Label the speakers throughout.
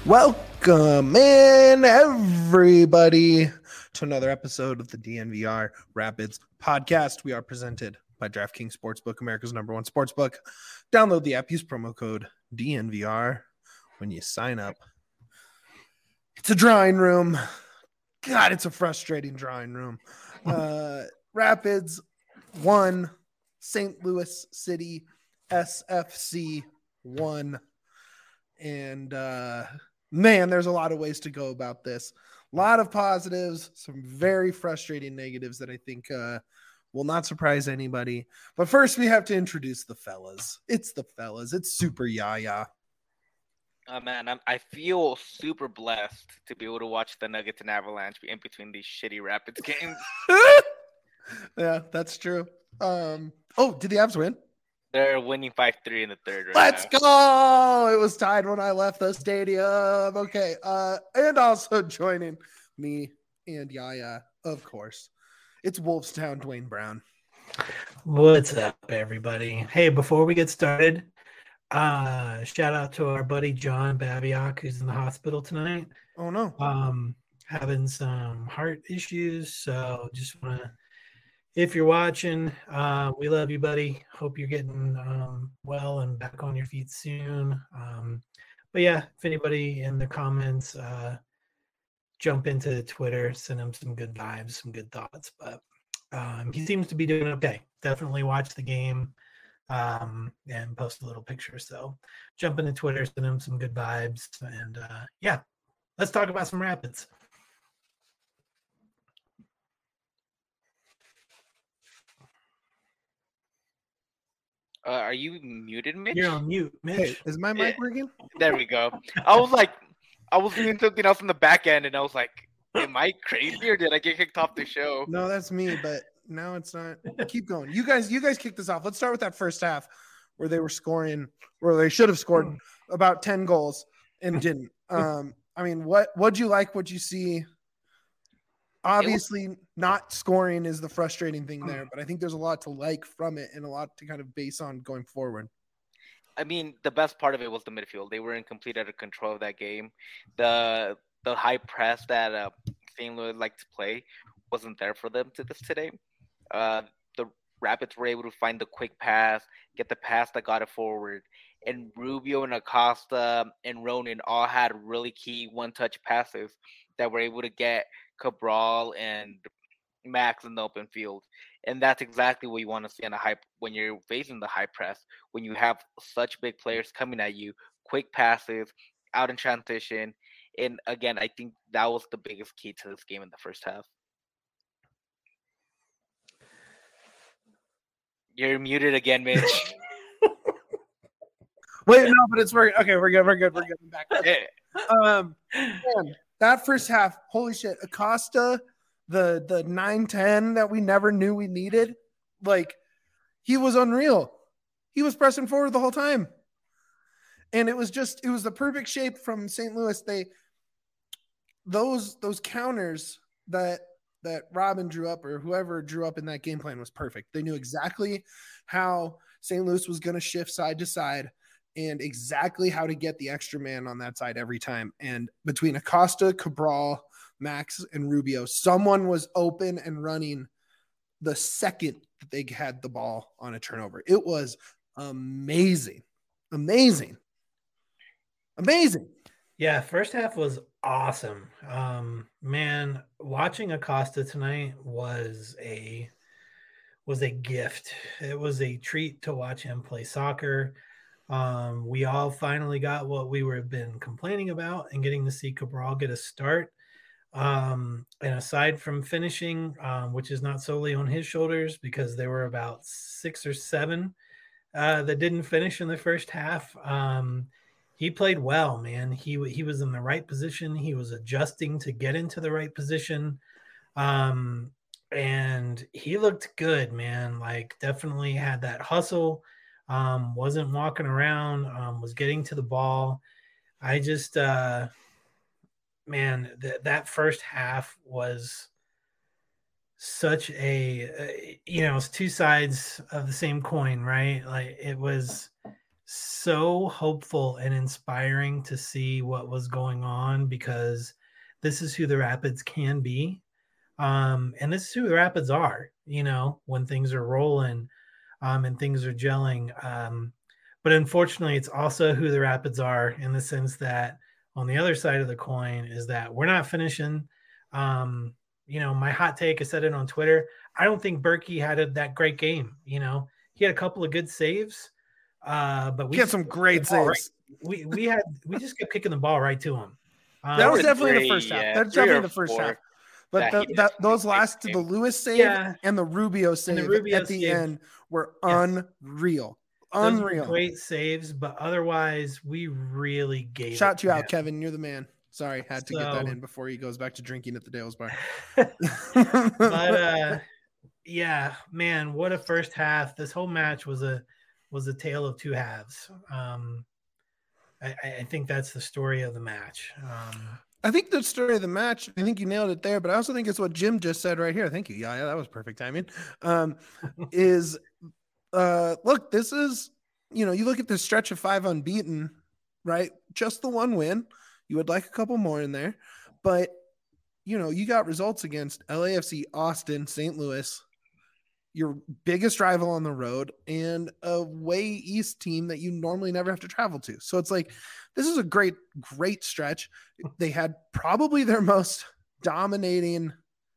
Speaker 1: Welcome in, everybody, to another episode of the DNVR Rapids podcast. We are presented by DraftKings Sportsbook, America's #1 sportsbook. Download the app, use promo code DNVR when you sign up. It's a drawing room. God, it's a frustrating drawing room. Rapids 1, St. Louis City SFC 1. And man, there's a lot of ways to go about this. A lot of positives, some very frustrating negatives that I think will not surprise anybody. But first, we have to introduce the fellas. It's the fellas. It's Super Yaya.
Speaker 2: Oh man, I feel super blessed to be able to watch the Nuggets and Avalanche in between these shitty Rapids games.
Speaker 1: Yeah, that's true. Did the Avs win?
Speaker 2: They're winning 5-3 in the third right
Speaker 1: Let's
Speaker 2: now.
Speaker 1: go! It was tied when I left the stadium. Okay. And also joining me and Yaya, of course, it's Wolfstown Dwayne Brown.
Speaker 3: What's up, everybody? Hey, before we get started, shout out to our buddy John Babiak, who's in the hospital tonight.
Speaker 1: Oh no.
Speaker 3: Having some heart issues. So just want to, if you're watching, we love you, buddy. Hope you're getting well and back on your feet soon. But yeah, if anybody in the comments, jump into Twitter, send him some good vibes, some good thoughts. But he seems to be doing okay. Definitely watch the game and post a little picture. So jump into Twitter, send him some good vibes. And yeah, let's talk about some Rapids.
Speaker 2: Are you muted, Mitch?
Speaker 3: You're on mute, Mitch.
Speaker 1: Hey, is my mic working?
Speaker 2: There we go. I was doing something else in the back end, and I was like, am I crazy or did I get kicked off the show?
Speaker 1: No, that's me, but now it's not. Keep going. You guys kick this off. Let's start with that first half where they were scoring, where they should have scored about 10 goals and didn't. I mean, what'd you like? What'd you see? Obviously, not scoring is the frustrating thing there, but I think there's a lot to like from it and a lot to kind of base on going forward.
Speaker 2: I mean, the best part of it was the midfield. They were in complete utter control of that game. The high press that St. Louis liked to play wasn't there for them today. The Rapids were able to find the quick pass, get the pass that got it forward. And Rubio and Acosta and Ronan all had really key one-touch passes that were able to get Cabral and Max in the open field. And that's exactly what you want to see on when you're facing the high press, when you have such big players coming at you, quick passes, out in transition. And again, I think that was the biggest key to this game in the first half. You're muted again, Mitch.
Speaker 1: Wait, no, but it's working. Okay, we're good. We're getting back.
Speaker 2: Yeah.
Speaker 1: Man, that first half, holy shit. Acosta, the 9-10 that we never knew we needed, like, he was unreal. He was pressing forward the whole time. And it was the perfect shape from St. Louis. Those counters that Robin drew up or whoever drew up in that game plan was perfect. They knew exactly how St. Louis was going to shift side to side and exactly how to get the extra man on that side every time. And between Acosta, Cabral, Max, and Rubio, someone was open and running the second that they had the ball on a turnover. It was amazing.
Speaker 3: Yeah, first half was awesome. Man, watching Acosta tonight was a gift. It was a treat to watch him play soccer. We all finally got what we were been complaining about and getting to see Cabral get a start. And aside from finishing, which is not solely on his shoulders because there were about 6 or 7 that didn't finish in the first half. He played well, man. He was in the right position. He was adjusting to get into the right position. And he looked good, man. Like, definitely had that hustle. Wasn't walking around, was getting to the ball. I just, man, that first half was such it's two sides of the same coin, right? Like, it was so hopeful and inspiring to see what was going on, because this is who the Rapids can be. And this is who the Rapids are, when things are rolling, and things are gelling. But unfortunately, it's also who the Rapids are, in the sense that on the other side of the coin is that we're not finishing. My hot take, I said it on Twitter. I don't think Berkey had that great game. He had a couple of good saves, but we
Speaker 1: had some great saves.
Speaker 3: Right. We just kept kicking the ball right to him.
Speaker 1: That was definitely the first half. That's definitely the first half. But those last, the Lewis save and the Rubio save at the end were unreal. Unreal.
Speaker 3: Great saves, but otherwise we really gave
Speaker 1: Shout you out, Kevin. You're the man. Sorry, had to get that in before he goes back to drinking at the Dales bar.
Speaker 3: But yeah, man, what a first half. This whole match was a tale of two halves. I think that's the story of the match.
Speaker 1: I think the story of the match, I think you nailed it there, but I also think it's what Jim just said right here. Thank you. Yeah, that was perfect timing. Look, this is, you look at this stretch of 5 unbeaten, right? Just the one win. You would like a couple more in there, but you got results against LAFC, Austin, St. Louis, your biggest rival on the road, and a way east team that you normally never have to travel to. So it's like, this is a great, great stretch. They had probably their most dominating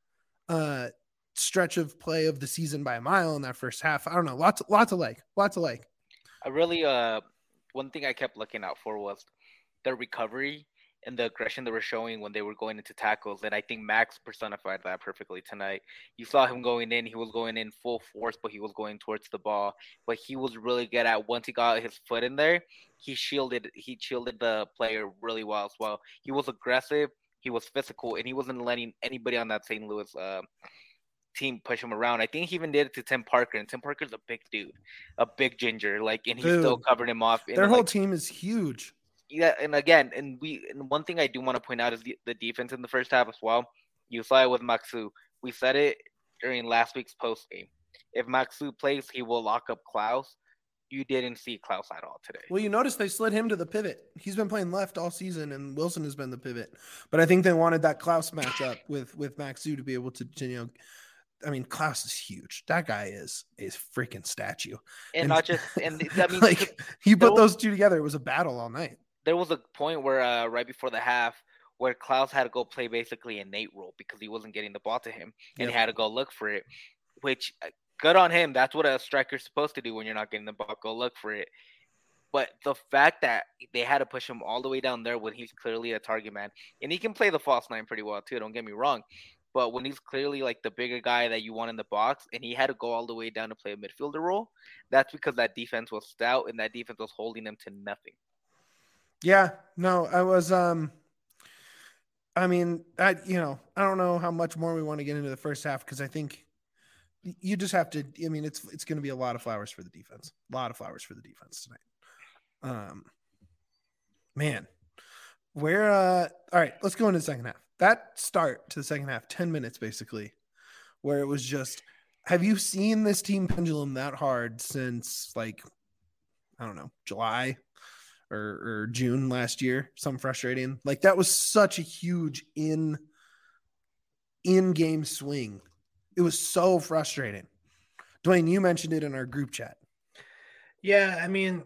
Speaker 1: stretch of play of the season by a mile in that first half. I don't know. Lots of like.
Speaker 2: I really, one thing I kept looking out for was their recovery and the aggression they were showing when they were going into tackles. And I think Max personified that perfectly tonight. You saw him going in. He was going in full force, but he was going towards the ball. But he was really good at, once he got his foot in there, he shielded the player really well as well. He was aggressive. He was physical, and he wasn't letting anybody on that St. Louis team push him around. I think he even did it to Tim Parker, and Tim Parker's a big dude, a big ginger, and he still covered him off.
Speaker 1: Their whole team is huge.
Speaker 2: Yeah, and again, and one thing I do want to point out is the defense in the first half as well. You saw it with Maxu. We said it during last week's post game. If Maxu plays, he will lock up Klaus. You didn't see Klaus at all today.
Speaker 1: Well, you notice they slid him to the pivot. He's been playing left all season, and Wilson has been the pivot. But I think they wanted that Klaus matchup with Maxu to be able to, I mean, Klaus is huge. That guy is a freaking statue.
Speaker 2: And not just, and I mean,
Speaker 1: he put those two together. It was a battle all night.
Speaker 2: There was a point where right before the half where Klaus had to go play basically a Nate role because he wasn't getting the ball to him, and he had to go look for it, which good on him. That's what a striker's supposed to do when you're not getting the ball. Go look for it. But the fact that they had to push him all the way down there when he's clearly a target man, and he can play the false nine pretty well too, don't get me wrong. But when he's clearly the bigger guy that you want in the box, and he had to go all the way down to play a midfielder role, that's because that defense was stout and that defense was holding them to nothing.
Speaker 1: Yeah, no, I was, I don't know how much more we want to get into the first half, because I think you just have to, it's going to be a lot of flowers for the defense. A lot of flowers for the defense tonight. Man, all right, let's go into the second half. That start to the second half, 10 minutes basically, where it was just, have you seen this team pendulum that hard since July or June last year? Something frustrating. That was such a huge in-game swing. It was so frustrating. Dwayne, you mentioned it in our group chat.
Speaker 3: Yeah, I mean,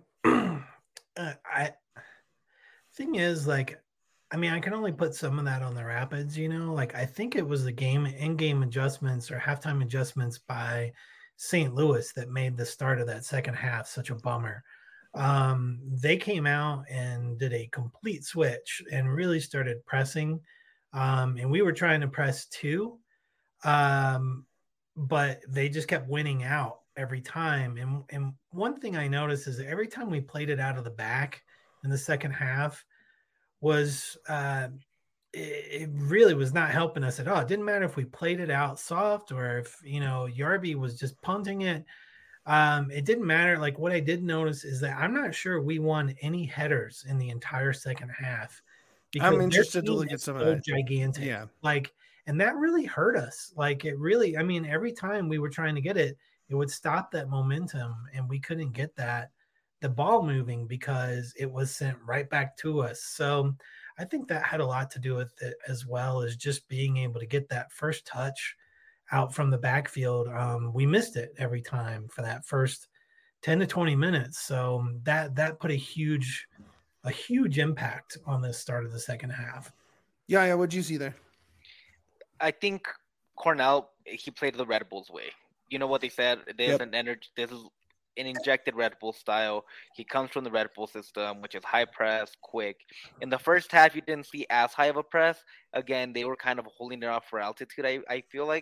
Speaker 3: thing is, I can only put some of that on the Rapids, I think it was the in-game adjustments or halftime adjustments by St. Louis that made the start of that second half such a bummer. They came out and did a complete switch and really started pressing. And we were trying to press too. But they just kept winning out every time. And one thing I noticed is that every time we played it out of the back in the second half was, it really was not helping us at all. It didn't matter if we played it out soft or if, Yarby was just punting it. It didn't matter. What I did notice is that I'm not sure we won any headers in the entire second half.
Speaker 1: I'm interested to look at some of that.
Speaker 3: Gigantic.
Speaker 1: Yeah.
Speaker 3: And that really hurt us. Every time we were trying to get it, it would stop that momentum and we couldn't get that. the ball moving because it was sent right back to us. So I think that had a lot to do with it, as well as just being able to get that first touch out from the backfield. We missed it every time for that first 10 to 20 minutes. So that put a huge impact on the start of the second half.
Speaker 1: Yeah. What'd you see there?
Speaker 2: I think Cornell, he played the Red Bulls way. You know what they said? There's an energy. This is an injected Red Bull style. He comes from the Red Bull system, which is high press, quick. In the first half, you didn't see as high of a press. Again, they were kind of holding it off for altitude, I feel like.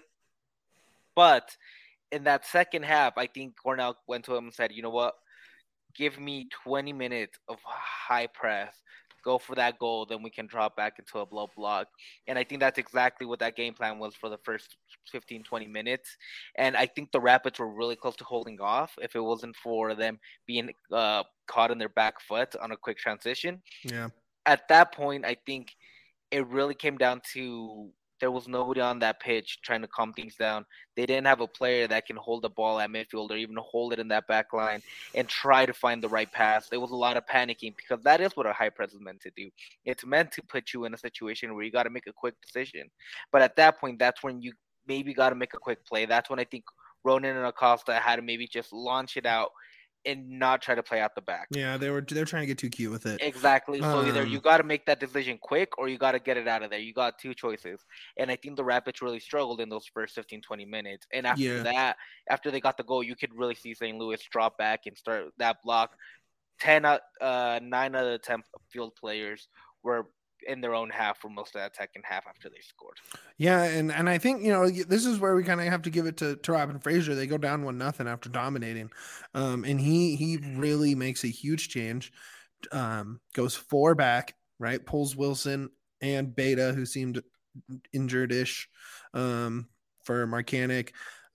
Speaker 2: But in that second half, I think Cornell went to him and said, you know what? Give me 20 minutes of high press. Go for that goal, then we can drop back into a low block. And I think that's exactly what that game plan was for the first 15, 20 minutes. And I think the Rapids were really close to holding off if it wasn't for them being caught in their back foot on a quick transition.
Speaker 1: Yeah.
Speaker 2: At that point, I think it really came down to there was nobody on that pitch trying to calm things down. They didn't have a player that can hold the ball at midfield or even hold it in that back line and try to find the right pass. There was a lot of panicking because that is what a high press is meant to do. It's meant to put you in a situation where you got to make a quick decision. But at that point, that's when you maybe got to make a quick play. That's when I think Ronan and Acosta had to maybe just launch it out and not try to play out the back.
Speaker 1: Yeah, they're trying to get too cute with it.
Speaker 2: Exactly. So either you got to make that decision quick or you got to get it out of there. You got two choices. And I think the Rapids really struggled in those first 15, 20 minutes. And after that, after they got the goal, you could really see St. Louis drop back and start that block. 9 out of the 10 field players were in their own half for most of that second half after they scored.
Speaker 1: Yeah, and I think, this is where we kind of have to give it to Robin Fraser. They go down 1-0 after dominating. And he really makes a huge change. Goes 4 back, right? Pulls Wilson and Beta, who seemed injured-ish, for Marcanic.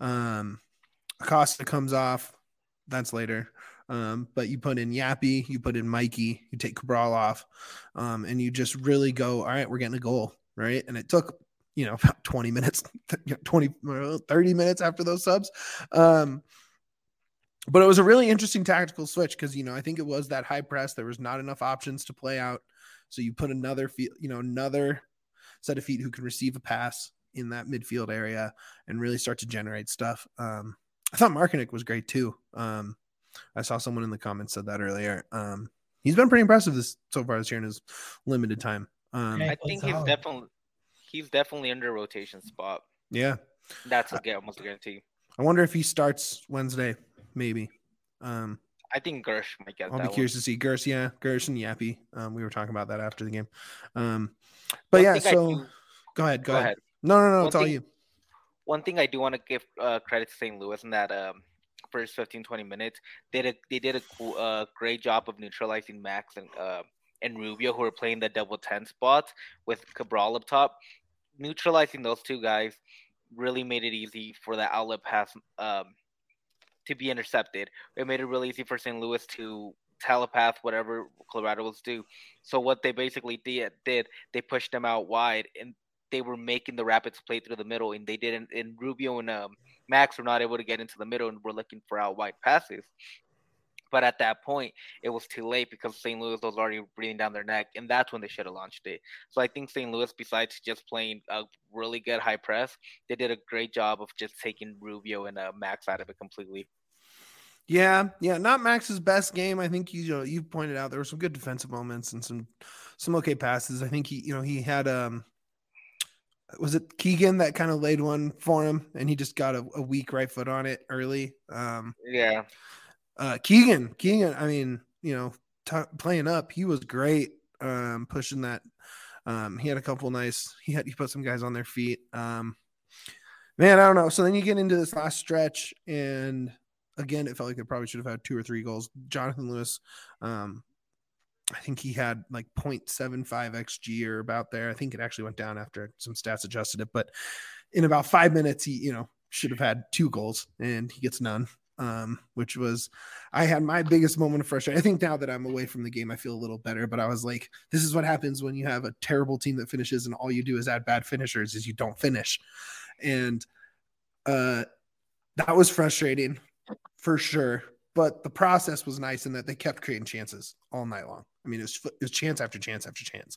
Speaker 1: Acosta comes off. That's later. But you put in Yappy, you put in Mikey, you take Cabral off, and you just really go, all right, we're getting a goal, right? And it took, about 20 minutes, 30 minutes after those subs. But it was a really interesting tactical switch because, I think it was that high press. There was not enough options to play out. So you put another set of feet who can receive a pass in that midfield area and really start to generate stuff. I thought Marcanic was great too. I saw someone in the comments said that earlier. He's been pretty impressive so far this year in his limited time.
Speaker 2: I think he's definitely under rotation spot.
Speaker 1: Yeah,
Speaker 2: that's almost a guarantee.
Speaker 1: I wonder if he starts Wednesday, maybe.
Speaker 2: I think Gersh might get.
Speaker 1: I'll be curious to see Gersh and Yappy. We were talking about that after the game. But go ahead. No, it's all you.
Speaker 2: One thing I do want to give credit to St. Louis in that first 15-20 minutes, they did a great job of neutralizing Max and Rubio, who were playing the double 10 spot with Cabral up top. Neutralizing those two guys really made it easy for the outlet pass to be intercepted. It made it really easy for St. Louis to telepath whatever Colorado was due. So what they basically did, they pushed them out wide, and they were making the Rapids play through the middle, and they didn't. And Rubio and Max were not able to get into the middle, and were looking for out wide passes. But at that point, it was too late because St. Louis was already breathing down their neck, and that's when they should have launched it. So I think St. Louis, besides just playing a really good high press, they did a great job of just taking Rubio and Max out of it completely.
Speaker 1: Yeah, not Max's best game. I think you pointed out there were some good defensive moments and some okay passes. I think he had was it Keegan that kind of laid one for him, and he just got a weak right foot on it early. Keegan. I mean, playing up, he was great. Pushing that. He had a couple nice. He put some guys on their feet. Man, I don't know. So then you get into this last stretch, and again, it felt like they probably should have had 2 or 3 goals. Jonathan Lewis, I think he had like 0.75 XG or about there. I think it actually went down after some stats adjusted it, but in about 5 minutes, he, should have had 2 goals and he gets none. Which was, I had my biggest moment of frustration. I think now that I'm away from the game, I feel a little better, but I was like, this is what happens when you have a terrible team that finishes and all you do is add bad finishers is you don't finish. And, that was frustrating for sure. but the process was nice in that they kept creating chances all night long. I mean, it was chance after chance after chance.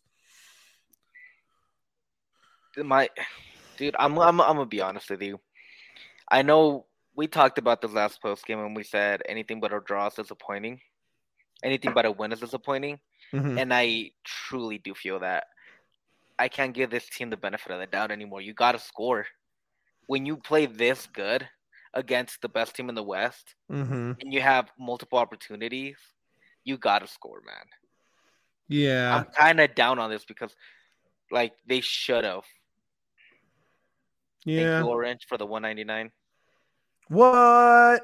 Speaker 2: Dude, I'm gonna be honest with you. I know we talked about this last post game and we said anything but a draw is disappointing. Anything but a win is disappointing.
Speaker 1: Mm-hmm.
Speaker 2: And I truly do feel that. I can't give this team the benefit of the doubt anymore. You got to score. When you play this good against the best team in the West and you have multiple opportunities, you got to score, man.
Speaker 1: Yeah.
Speaker 2: I'm kind of down on this because, like, they should have.
Speaker 1: Yeah.
Speaker 2: Thank you, Orange, for the $1.99.
Speaker 1: What?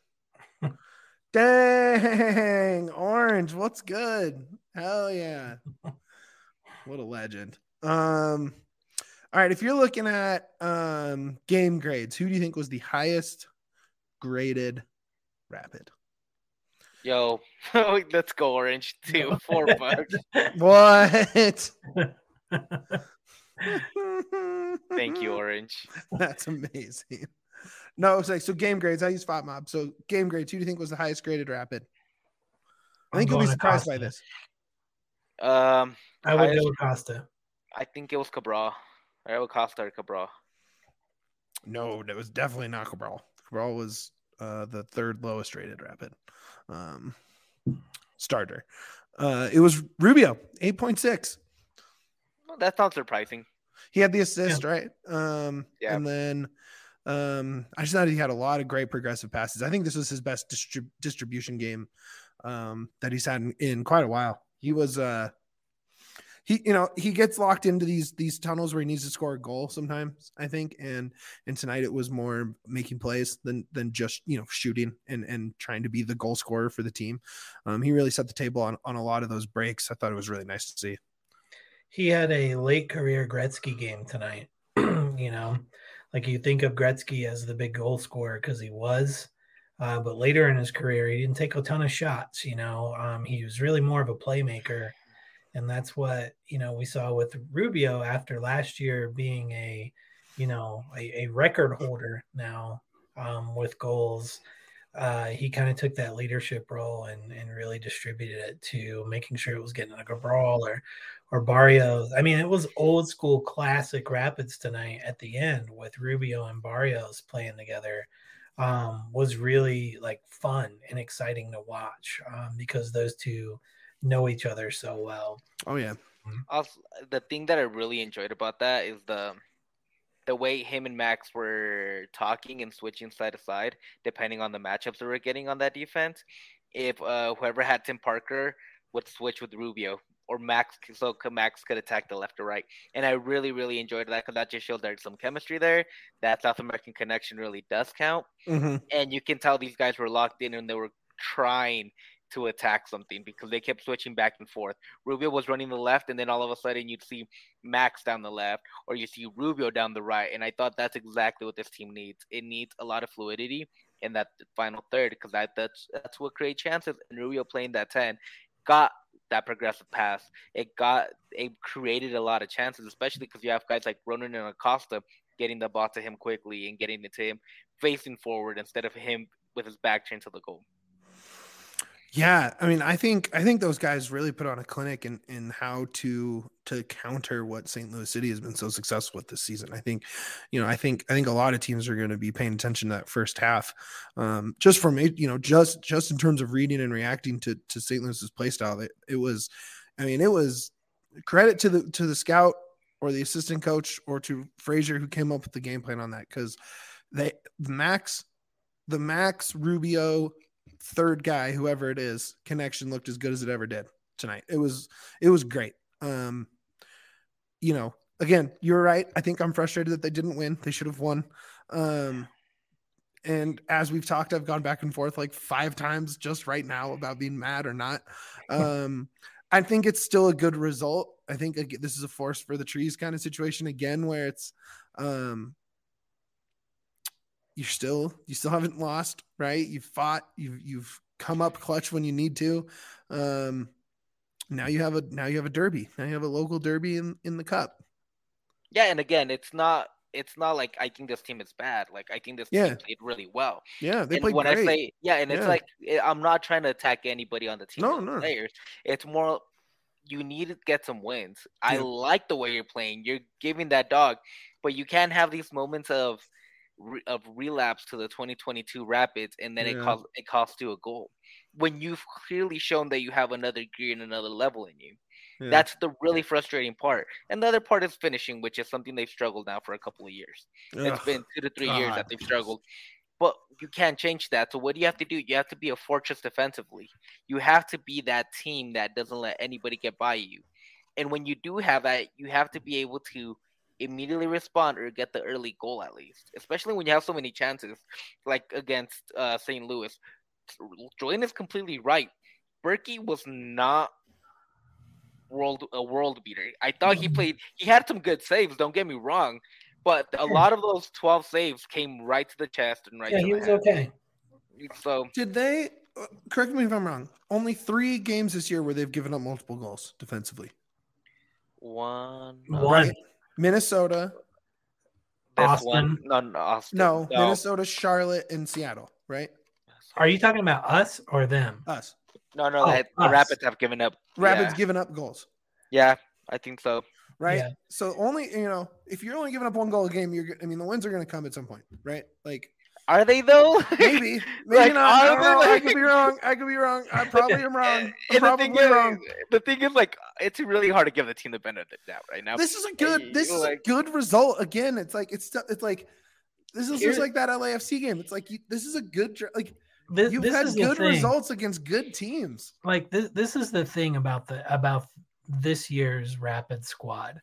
Speaker 1: Dang, Orange, what's good? Hell yeah. What a legend. All right, if you're looking at game grades, who do you think was the highest graded Rapid?
Speaker 2: Yo, let's go, Orange. $4.
Speaker 1: What?
Speaker 2: Thank you, Orange.
Speaker 1: That's amazing. No, it's like, so game grades. I use FOTMob. So game grades. Who do you think was the highest graded Rapid? I think you'll be surprised by this.
Speaker 3: I would go with Costa.
Speaker 2: I think it was Cabral. I would Costa or Cabral.
Speaker 1: No, that was definitely not Cabral. Cabral was the third lowest rated Rapid starter. It was Rubio, 8.6.
Speaker 2: Well, that's not surprising.
Speaker 1: He had the assist, right? And then I just thought he had a lot of great progressive passes. I think this was his best distribution game that he's had in quite a while. He was he gets locked into these tunnels where he needs to score a goal sometimes, I think. And tonight it was more making plays than just, shooting and trying to be the goal scorer for the team. He really set the table on a lot of those breaks. I thought it was really nice to see.
Speaker 3: He had a late career Gretzky game tonight. Like you think of Gretzky as the big goal scorer because he was, but later in his career, he didn't take a ton of shots. He was really more of a playmaker. And that's what, we saw with Rubio after last year being a record holder now with goals. He kind of took that leadership role and really distributed it to making sure it was getting like a brawl or Barrios. I mean, it was old school classic Rapids tonight at the end with Rubio and Barrios playing together. Was really like fun and exciting to watch because those two know each other so well.
Speaker 1: Oh yeah.
Speaker 2: Also, the thing that I really enjoyed about that is the way him and Max were talking and switching side to side, depending on the matchups they were getting on that defense. If whoever had Tim Parker would switch with Rubio or Max, so Max could attack the left or right. And I really, really enjoyed that because that just shows there's some chemistry there. That South American connection really does count.
Speaker 1: Mm-hmm.
Speaker 2: And you can tell these guys were locked in and they were trying to attack something because they kept switching back and forth. Rubio was running the left, and then all of a sudden you'd see Max down the left, or you see Rubio down the right. And I thought that's exactly what this team needs. It needs a lot of fluidity in that final third because that's what creates chances. And Rubio playing that 10 got that progressive pass. It created a lot of chances, especially because you have guys like Ronan and Acosta getting the ball to him quickly and getting it to him facing forward instead of him with his back turned to the goal.
Speaker 1: Yeah, I mean, I think those guys really put on a clinic in how to counter what St. Louis City has been so successful with this season. I think a lot of teams are going to be paying attention to that first half, just from just in terms of reading and reacting to St. Louis's play style. It was credit to the scout or the assistant coach or to Frazier who came up with the game plan on that because the Max Rubio third guy, whoever it is, connection looked as good as it ever did tonight. It was great. Again, you're right. I think I'm frustrated that they didn't win. They should have won. And as we've talked, I've gone back and forth like 5 times just right now about being mad or not. I think it's still a good result. I think this is a force for the trees kind of situation again, where it's, you still haven't lost, right? You've fought, you've come up clutch when you need to. Now you have a derby. Now you have a local derby in the cup.
Speaker 2: Yeah, and again, it's not it's not like I think this team is bad. Like I think this
Speaker 1: Yeah.
Speaker 2: team played really well.
Speaker 1: Yeah, they
Speaker 2: And
Speaker 1: played
Speaker 2: when
Speaker 1: great.
Speaker 2: I say and it's
Speaker 1: Yeah.
Speaker 2: like I'm not trying to attack anybody on the team
Speaker 1: No,
Speaker 2: or the
Speaker 1: no.
Speaker 2: players. It's more you need to get some wins. I
Speaker 1: Yeah.
Speaker 2: like the way you're playing. You're giving that dog, but you can't have these moments of relapse to the 2022 Rapids, and then
Speaker 1: Yeah.
Speaker 2: it costs you a goal when you've clearly shown that you have another gear and another level in you.
Speaker 1: Yeah.
Speaker 2: That's the really frustrating part. And the other part is finishing, which is something they've struggled now for a couple of years. It's
Speaker 1: Ugh,
Speaker 2: been 2 to 3 years
Speaker 1: God.
Speaker 2: that they've struggled. But you can't change that. So what do you have to do? You have to be a fortress defensively. You have to be that team that doesn't let anybody get by you. And when you do have that, you have to be able to immediately respond or get the early goal at least. Especially when you have so many chances, like against St. Louis. Joanne is completely right. Berkey was not a world beater. I thought he had some good saves, don't get me wrong, but a lot of those 12 saves came right to the chest and right to
Speaker 3: he
Speaker 2: the
Speaker 3: was
Speaker 2: head.
Speaker 3: okay.
Speaker 2: So
Speaker 1: did they correct me if I'm wrong, only 3 games this year where they've given up multiple goals defensively?
Speaker 3: One.
Speaker 1: Right? Minnesota,
Speaker 3: Austin.
Speaker 2: Austin.
Speaker 1: No, Minnesota, Charlotte, and Seattle, right?
Speaker 3: Are you talking about us or them?
Speaker 1: Us.
Speaker 2: No,
Speaker 3: us.
Speaker 2: the Rapids have given up.
Speaker 1: Rapids giving up goals.
Speaker 2: Yeah, I think so.
Speaker 1: Right?
Speaker 3: Yeah.
Speaker 1: So only, if you're only giving up 1 goal a game, the wins are going to come at some point, right? Like,
Speaker 2: are they though?
Speaker 1: maybe
Speaker 2: Like,
Speaker 1: not. I don't know. I could be wrong. I probably am wrong. I'm probably wrong.
Speaker 2: The thing is, like, it's really hard to give the team the benefit of the doubt right now.
Speaker 1: This is a good result. Again, it's like this is just like that LAFC game. It's like this is a good you've had good results against good teams.
Speaker 3: Like this is the thing about this year's Rapid squad.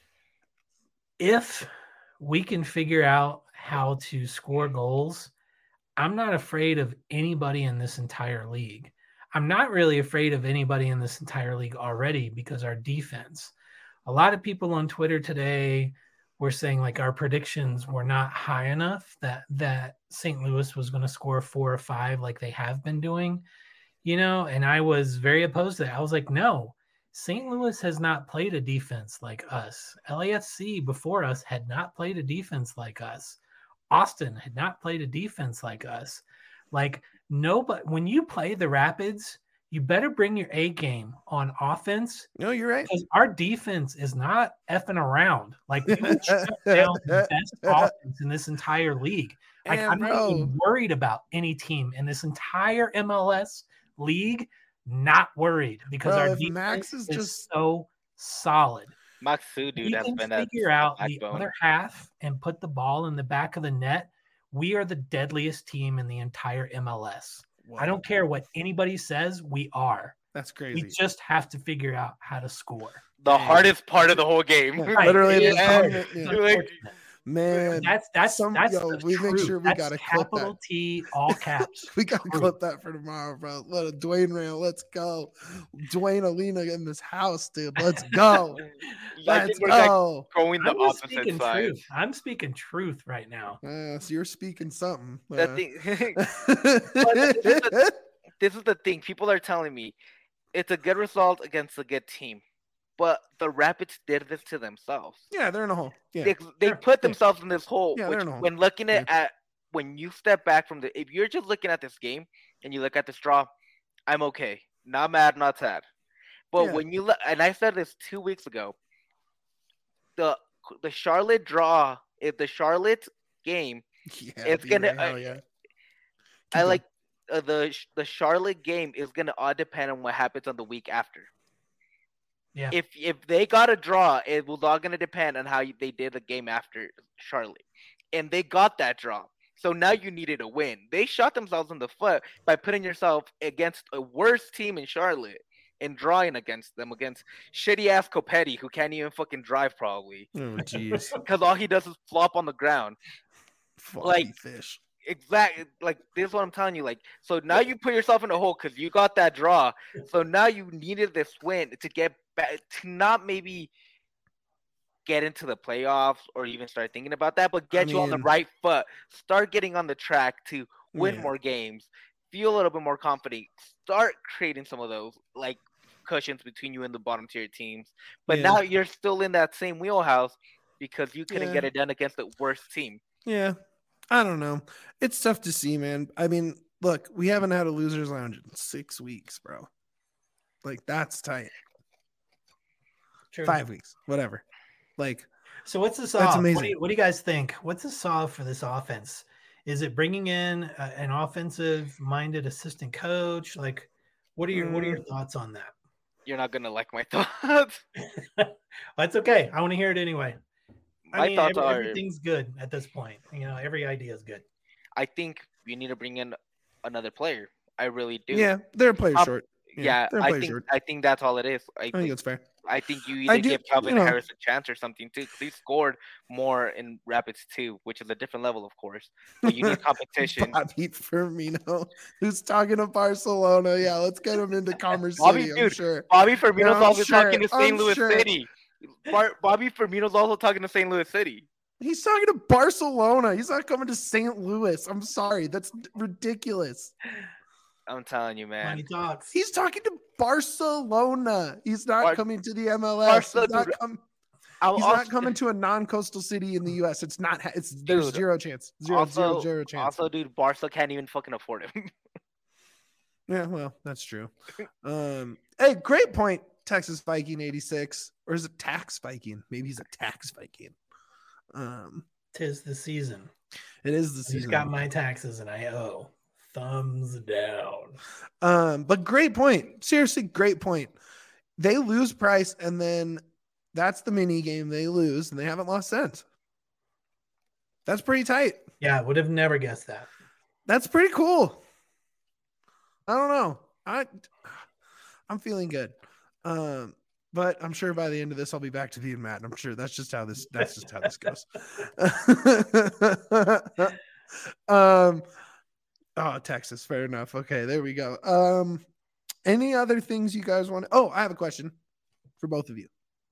Speaker 3: If we can figure out how to score goals, I'm not afraid of anybody in this entire league. I'm not really afraid of anybody in this entire league already because our defense. A lot of people on Twitter today were saying like our predictions were not high enough that St. Louis was going to score 4 or 5 like they have been doing, and I was very opposed to that. I was like, no, St. Louis has not played a defense like us. LAFC before us had not played a defense like us. Austin had not played a defense like us. Like nobody, when you play the Rapids, you better bring your A game on offense.
Speaker 1: No, you're right.
Speaker 3: Because our defense is not effing around. Like we would shut down the best offense in this entire league. Like I'm not even worried about any team in this entire MLS league. Not worried because our defense
Speaker 1: Max is just
Speaker 3: so solid.
Speaker 2: Max Fu, dude, has been
Speaker 3: figure out the other half and put the ball in the back of the net. We are the deadliest team in the entire MLS. Wow. I don't care what anybody says. We are.
Speaker 1: That's crazy.
Speaker 3: We just have to figure out how to score.
Speaker 2: The hardest part of the whole game.
Speaker 1: Yeah, literally,
Speaker 3: man. That's
Speaker 1: we make sure we got to clip
Speaker 3: capital
Speaker 1: that.
Speaker 3: T, all caps.
Speaker 1: We got to clip that for tomorrow, bro. Let a Dwayne rail. Let's go, Dwayne Alina in this house, dude. Let's go. Let's go.
Speaker 2: Going the opposite side.
Speaker 3: I'm speaking truth right now.
Speaker 1: So you're speaking something.
Speaker 2: This is the thing. People are telling me it's a good result against a good team. But the Rapids did this to themselves.
Speaker 1: Yeah, they're in a hole. Yeah.
Speaker 2: They put themselves in this hole.
Speaker 1: Yeah,
Speaker 2: which, when looking at when you step back from if you're just looking at this game and you look at this draw, I'm okay. Not mad, not sad. But when you look, and I said this 2 weeks ago, the Charlotte draw, if the Charlotte game, it's gonna. I like the Charlotte game is gonna all depend on what happens on the week after.
Speaker 3: Yeah.
Speaker 2: If they got a draw, it was all going to depend on how they did the game after Charlotte. And they got that draw. So now you needed a win. They shot themselves in the foot by putting yourself against a worse team in Charlotte and drawing against them, against shitty-ass Copetti, who can't even fucking drive probably.
Speaker 1: Oh, jeez.
Speaker 2: Because all he does is flop on the ground.
Speaker 1: Floppy fish.
Speaker 2: Exactly. Like, this is what I'm telling you. Like, so now you put yourself in a hole because you got that draw. So now you needed this win to get back, to not maybe get into the playoffs or even start thinking about that, but get you on the right foot. Start getting on the track to win more games. Feel a little bit more confident. Start creating some of those, like, cushions between you and the bottom tier teams. But now you're still in that same wheelhouse. because you couldn't
Speaker 1: Yeah.
Speaker 2: get it done against the worst team.
Speaker 1: Yeah. I don't know. It's tough to see, man. I mean, look, we haven't had a losers lounge in 6 weeks, bro. Like, that's tight.
Speaker 3: True.
Speaker 1: 5 weeks, whatever. Like,
Speaker 3: so what's the
Speaker 1: that's
Speaker 3: solve?
Speaker 1: amazing.
Speaker 3: What do you guys think? What's the solve for this offense? Is it bringing in an offensive-minded assistant coach? Like, what are your thoughts on that?
Speaker 2: You're not gonna like my thoughts.
Speaker 3: That's okay. I want to hear it anyway.
Speaker 2: My thoughts are
Speaker 3: everything's good at this point. Every idea is good.
Speaker 2: I think you need to bring in another player. I really do.
Speaker 1: Yeah, they're a player short.
Speaker 2: Yeah,
Speaker 1: they're a player short.
Speaker 2: I think that's all it is.
Speaker 1: I think that's fair.
Speaker 2: I think you either give Calvin Harris a chance or something too, because he scored more in Rapids too, which is a different level, of course. But you need competition.
Speaker 1: Bobby Firmino, who's talking to Barcelona. Yeah, let's get him into Commerce City. I'm sure.
Speaker 2: Bobby Firmino's also talking to St. Louis City. Bobby Firmino's also talking to St. Louis City.
Speaker 1: He's talking to Barcelona. He's not coming to St. Louis. I'm sorry. That's ridiculous.
Speaker 2: I'm telling you, man.
Speaker 1: He's talking to Barcelona. He's not coming to the MLS. He's not coming to a non-coastal city in the U.S. It's not. There's zero chance. Zero chance.
Speaker 2: Also, dude, Barca can't even fucking afford him.
Speaker 1: Yeah, well, that's true. Hey, great point, Texas Viking 86, or is it Tax Viking? Maybe he's a Tax Viking.
Speaker 3: Tis the season.
Speaker 1: It is the season.
Speaker 3: I just got my taxes and I owe. Thumbs down.
Speaker 1: But great point. Seriously, great point. They lose Price, and then that's the mini game. They lose, and they haven't lost since. That's pretty tight.
Speaker 3: Yeah, would have never guessed that.
Speaker 1: That's pretty cool. I don't know. I'm feeling good. But I'm sure by the end of this, I'll be back to being mad. I'm sure that's just how this goes. Oh, Texas. Fair enough. Okay, there we go. Any other things you guys want? Oh, I have a question for both of you.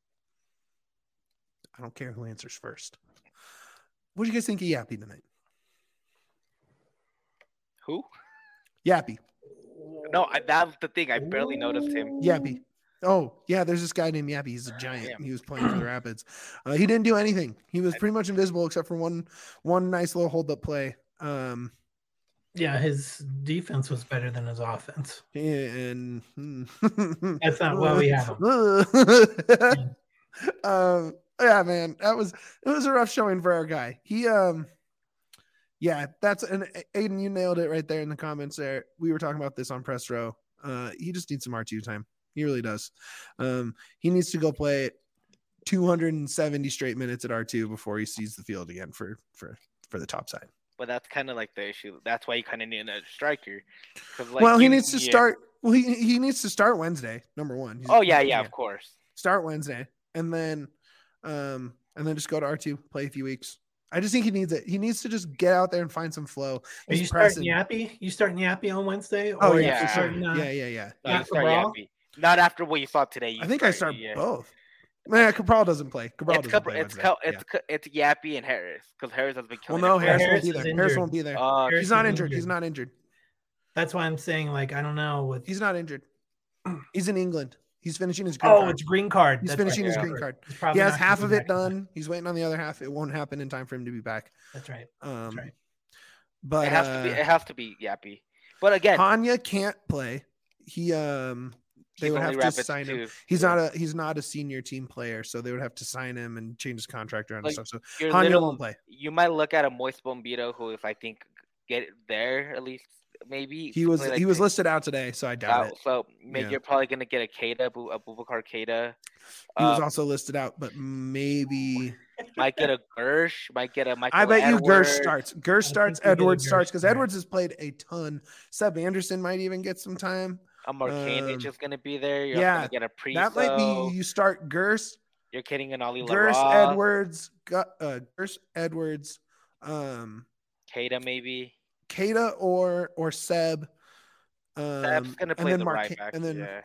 Speaker 1: I don't care who answers first. What do you guys think of Yappy tonight?
Speaker 2: Who?
Speaker 1: Yappy.
Speaker 2: No, that's the thing. I barely noticed him.
Speaker 1: Yappy. Oh, yeah, there's this guy named Yappy. He's a giant. He was playing for the Rapids. He didn't do anything. He was pretty much invisible except for one nice little hold-up play.
Speaker 3: Yeah, his defense was better than his offense.
Speaker 1: And
Speaker 3: that's not why we have him.
Speaker 1: Yeah, man, it was a rough showing for our guy. Yeah, and Aiden, you nailed it right there in the comments there. We were talking about this on press row. He just needs some R2 time. He really does. He needs to go play 270 straight minutes at R2 before he sees the field again for the top side.
Speaker 2: But that's kind of like the issue. That's why you kind of need another striker.
Speaker 1: He needs to start. Well, he needs to start Wednesday. Number one.
Speaker 2: Of course.
Speaker 1: Start Wednesday, and then just go to R2, play a few weeks. I just think he needs it. He needs to just get out there and find some flow.
Speaker 3: Are you starting Yappy? You starting Yappy on Wednesday?
Speaker 1: Oh yeah, for sure. Yeah.
Speaker 2: No, start Yappy. Not after what you saw today.
Speaker 1: I think I start both. Man, Cabral doesn't play.
Speaker 2: It's Yappy and Harris because Harris has been killing.
Speaker 1: Well, no, Harris won't be there. He's not injured. He's not injured.
Speaker 3: That's why I'm saying, I don't know.
Speaker 1: He's not injured. He's in England. He's finishing his green card.
Speaker 3: Oh, it's green card.
Speaker 1: He's finishing his green card. He has half of it done. He's waiting on the other half. It won't happen in time for him to be back.
Speaker 3: That's right.
Speaker 1: But
Speaker 2: it has to be Yappy. But again,
Speaker 1: Hanya can't play. They would have to sign him. He's not a senior team player, so they would have to sign him and change his contract around and stuff. So Hanya won't play.
Speaker 2: You might look at a Moist Bombito, who, if I think get there at least, maybe
Speaker 1: he was listed out today, so I doubt it.
Speaker 2: So maybe you're probably gonna get a Keita, a Boubacar Keita.
Speaker 1: He was also listed out, but maybe
Speaker 2: might get a Gersh, might get a Michael.
Speaker 1: I bet
Speaker 2: Edwards.
Speaker 1: you Gersh starts, Edwards starts because Edwards has played a ton. Seb Anderson might even get some time.
Speaker 2: A Markanich is going to be there. You're going to get a Priso.
Speaker 1: That might be you start Gersh.
Speaker 2: You're kidding an Ali
Speaker 1: Gersh, Edwards,
Speaker 2: Keita maybe.
Speaker 1: Keita or Seb.
Speaker 2: Seb's going to play the right back. And then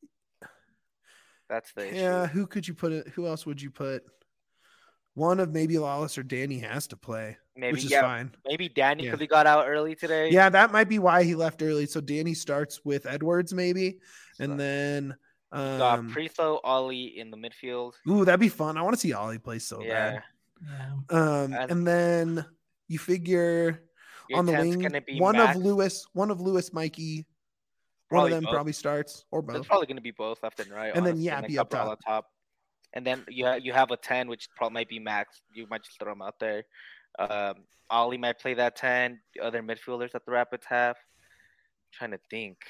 Speaker 2: that's the issue.
Speaker 1: Yeah, who could you put it? Who else would you put? One of maybe Lawless or Danny has to play, which is fine.
Speaker 2: Maybe Danny because he got out early today.
Speaker 1: Yeah, that might be why he left early. So Danny starts with Edwards maybe, and then
Speaker 2: Got Priso, Ollie in the midfield.
Speaker 1: Ooh, that'd be fun. I want to see Ollie play so bad.
Speaker 3: Yeah.
Speaker 1: And then you figure
Speaker 2: Your
Speaker 1: on the
Speaker 2: 10's
Speaker 1: wing,
Speaker 2: gonna be
Speaker 1: one
Speaker 2: Max.
Speaker 1: of Lewis, Mikey. One
Speaker 2: Probably
Speaker 1: of them
Speaker 2: both.
Speaker 1: probably starts, or both.
Speaker 2: It's probably gonna be both left and right.
Speaker 1: And then
Speaker 2: honestly,
Speaker 1: Yappy
Speaker 2: and
Speaker 1: up
Speaker 2: Cabral on top. And then you have a 10, which probably might be Max. You might just throw him out there. Ollie might play that 10. The other midfielders that the Rapids have. I'm trying to think.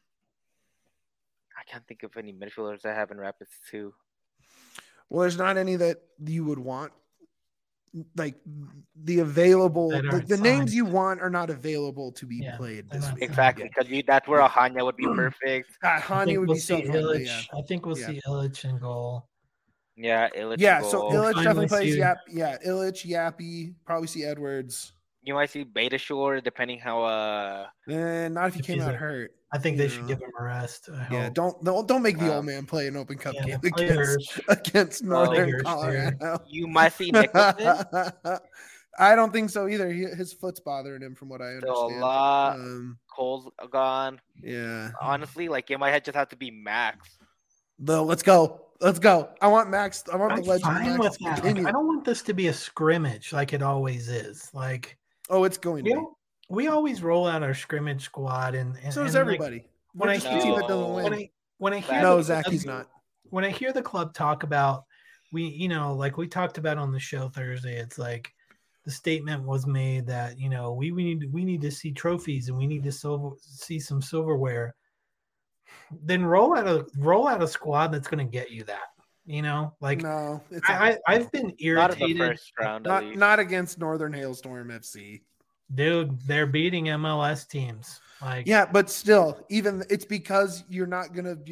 Speaker 2: I can't think of any midfielders that have in Rapids too.
Speaker 1: Well, there's not any that you would want. Like the available, the names you want are not available to be played this week.
Speaker 2: Exactly, because that's where Ahania would be perfect.
Speaker 1: Ahania would be so fun.
Speaker 3: Yeah. I think we'll see Illich in goal.
Speaker 2: Yeah, Illich.
Speaker 1: Yeah, so Illich definitely plays. Yeah, Illich, Yappy. Probably see Edwards.
Speaker 2: You might see Betashore, depending how.
Speaker 1: Not if he came out hurt.
Speaker 3: I think they should give him a rest.
Speaker 1: Yeah, don't make the old man play an Open Cup game against Northern Colorado.
Speaker 2: You might see Nicholson.
Speaker 1: I don't think so either. His foot's bothering him, from what I understand.
Speaker 2: So a lot. Cole's gone.
Speaker 1: Yeah.
Speaker 2: Honestly, like it might just have to be Max.
Speaker 1: Though, let's go. I want Max. I want the legend.
Speaker 3: Fine with that. Like, I don't want this to be a scrimmage like it always is. Like,
Speaker 1: it's going to be.
Speaker 3: We always roll out our scrimmage squad, and
Speaker 1: so does everybody.
Speaker 3: When I hear
Speaker 1: Zach, he's not.
Speaker 3: When I hear the club talk about like we talked about on the show Thursday, it's like the statement was made that we need to see trophies and we need to see some silverware. Then roll out a squad that's going to get you that. Like
Speaker 1: no,
Speaker 3: I've been irritated.
Speaker 2: Not in the first round,
Speaker 1: not against Northern Hailstorm FC.
Speaker 3: Dude, they're beating MLS teams. Like,
Speaker 1: yeah, but still, even it's because not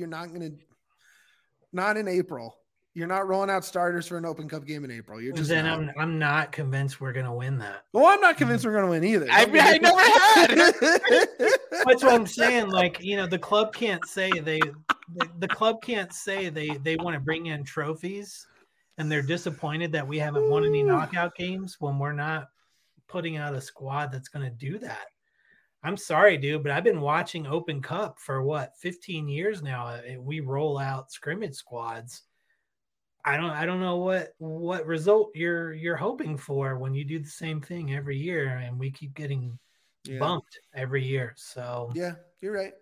Speaker 1: in April. You're not rolling out starters for an Open Cup game in April. You're just
Speaker 3: I'm not convinced we're gonna win that.
Speaker 1: Well, I'm not convinced we're gonna win either.
Speaker 2: I never had.
Speaker 3: That's what I'm saying. Like, the club can't say they want to bring in trophies, and they're disappointed that we haven't won any knockout games when we're not putting out a squad that's going to do that. I'm sorry, dude, but I've been watching Open Cup for 15 years now. We roll out scrimmage squads. I don't know what result you're hoping for when you do the same thing every year, and we keep getting bumped every year. So
Speaker 1: yeah, you're right.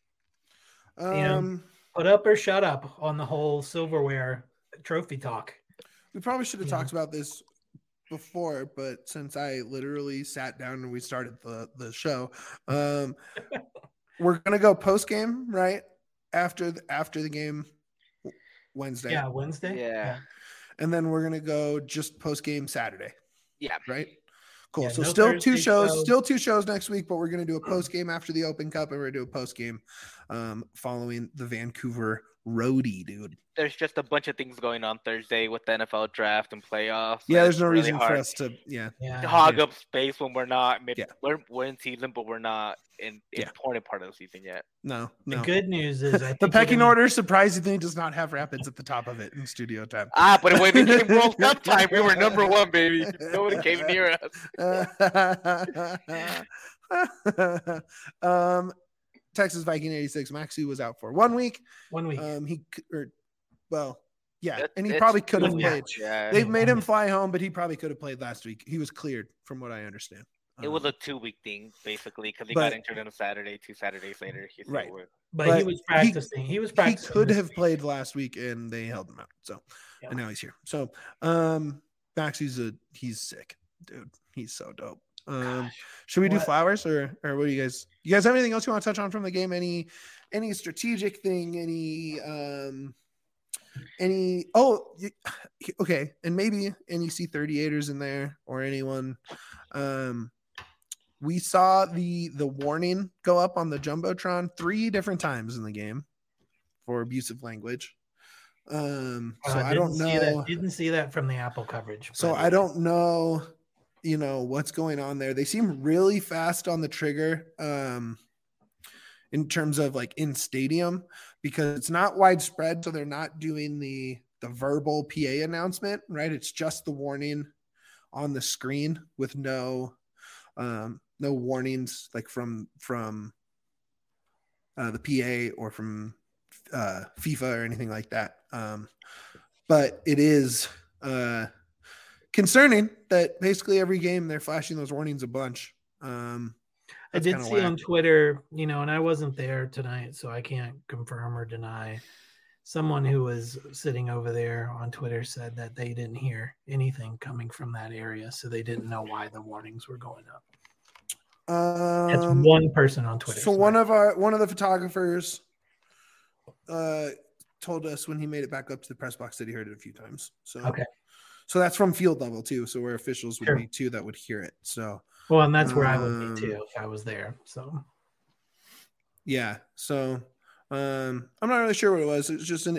Speaker 3: Put up or shut up on the whole silverware trophy talk.
Speaker 1: We probably should have talked about this before, but since I literally sat down and we started the show, we're gonna go post game right after the game Wednesday.
Speaker 3: Yeah, Wednesday.
Speaker 2: Yeah,
Speaker 1: and then we're gonna go just post game Saturday.
Speaker 2: Yeah,
Speaker 1: right. Cool.
Speaker 3: Yeah,
Speaker 1: so
Speaker 3: no
Speaker 1: still
Speaker 3: Thursday
Speaker 1: 2 shows, still 2 shows next week, but we're gonna do a post game after the Open Cup, and we're gonna do a post game following the Vancouver Roadie, dude.
Speaker 2: There's just a bunch of things going on Thursday with the NFL draft and playoffs.
Speaker 1: Yeah, there's no reason for us to
Speaker 2: hog up space when we're not we're in season, but we're not in important part of the season yet.
Speaker 1: No.
Speaker 3: The good news is
Speaker 1: the pecking order surprisingly does not have Rapids at the top of it in studio time.
Speaker 2: But when it became World Cup time, we were number 1, baby. Nobody came near
Speaker 1: us. Texas Viking 86. Maxu was out for 1 week.
Speaker 3: 1 week.
Speaker 1: And he probably could have played.
Speaker 2: Yeah.
Speaker 1: They've made him fly home, but he probably could have played last week. He was cleared, from what I understand.
Speaker 2: It was a 2-week thing, basically, because he got injured on a Saturday. 2 Saturdays later,
Speaker 1: right.
Speaker 3: But he was practicing. He
Speaker 1: could have played last week, and they held him out. So, and now he's here. So, Max, he's sick, dude. He's so dope. Should we do flowers or what do you guys have anything else you want to touch on from the game? Any strategic thing? Okay, and maybe any C38ers in there or anyone. We saw the warning go up on the Jumbotron 3 different times in the game for abusive language. So I don't know.
Speaker 3: Didn't see that from the Apple coverage.
Speaker 1: So I don't know, what's going on there. They seem really fast on the trigger in terms of like in stadium, because it's not widespread. So they're not doing the verbal PA announcement, right? It's just the warning on the screen with no warnings like from the PA or from FIFA or anything like that. But it is concerning that basically every game they're flashing those warnings a bunch.
Speaker 3: I did see on Twitter, and I wasn't there tonight, so I can't confirm or deny. Someone who was sitting over there on Twitter said that they didn't hear anything coming from that area, so they didn't know why the warnings were going up. It's one person on Twitter.
Speaker 1: So one of the photographers told us when he made it back up to the press box that he heard it a few times. So
Speaker 3: okay.
Speaker 1: So that's from field level too. So where officials would be too that would hear it. So
Speaker 3: well, and that's where I would be too if I was there. So
Speaker 1: yeah. So I'm not really sure what it was.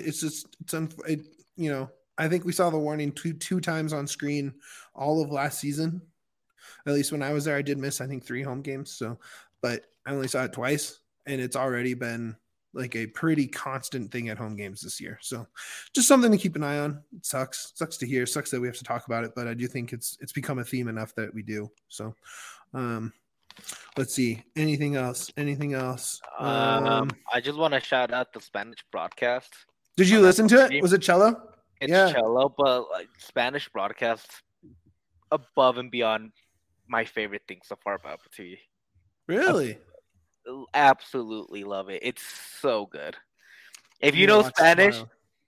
Speaker 1: I think we saw the warning two times on screen all of last season. At least when I was there, I did miss, I think, 3 home games. So, but I only saw it twice, and it's already been like a pretty constant thing at home games this year. So just something to keep an eye on. It sucks to hear, sucks that we have to talk about it, but I do think it's become a theme enough that we do. So, let's see. Anything else?
Speaker 2: I just want to shout out the Spanish broadcast.
Speaker 1: Did you listen to it? Was it cello?
Speaker 2: It's cello, but like Spanish broadcast above and beyond my favorite thing so far about Patui.
Speaker 1: Really?
Speaker 2: Absolutely love it. It's so good. If you know Spanish,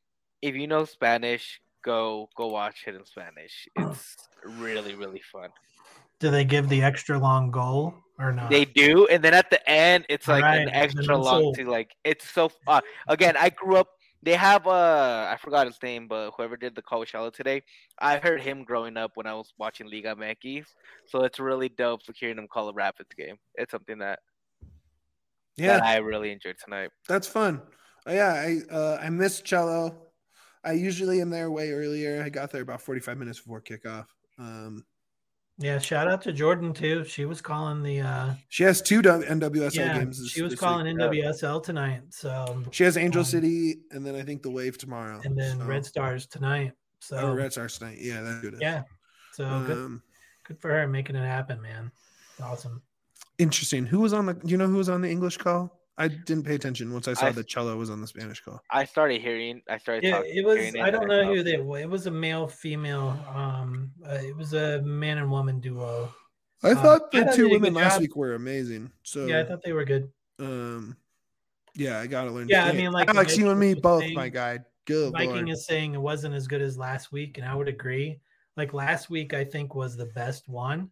Speaker 2: go watch it in Spanish. It's really, really fun.
Speaker 3: Do they give the extra long goal or not?
Speaker 2: They do, and then at the end, it's like an extra long to like. It's so fun. Again, I grew up. They have I forgot his name, but whoever did the Coachella today, I heard him growing up when I was watching Liga MX. So it's really dope to hearing him call a Rapids game. It's something that I really enjoyed tonight.
Speaker 1: That's fun. I missed cello. I usually am there way earlier. I got there about 45 minutes before kickoff.
Speaker 3: Yeah, shout out to Jordan too. She was calling the.
Speaker 1: She has 2 NWSL games.
Speaker 3: She was calling NWSL tonight. So
Speaker 1: she has Angel City, and then I think the Wave tomorrow,
Speaker 3: and then Red Stars tonight. So
Speaker 1: Red Stars tonight. Yeah, that's good.
Speaker 3: Yeah, so good for her making it happen, man. Awesome.
Speaker 1: Interesting. Who was on the? Do you know who was on the English call? I didn't pay attention once I saw that cello was on the Spanish call.
Speaker 2: I started hearing.
Speaker 3: It was. I don't know who they were. It was a male, female. It was a man and woman duo.
Speaker 1: I thought the 2 women last week were amazing. So
Speaker 3: yeah, I thought they were good.
Speaker 1: Yeah, I gotta learn.
Speaker 3: Yeah, I mean, like
Speaker 1: Alex, you and me both, my guy. Good.
Speaker 3: Viking is saying it wasn't as good as last week, and I would agree. Like last week, I think was the best one.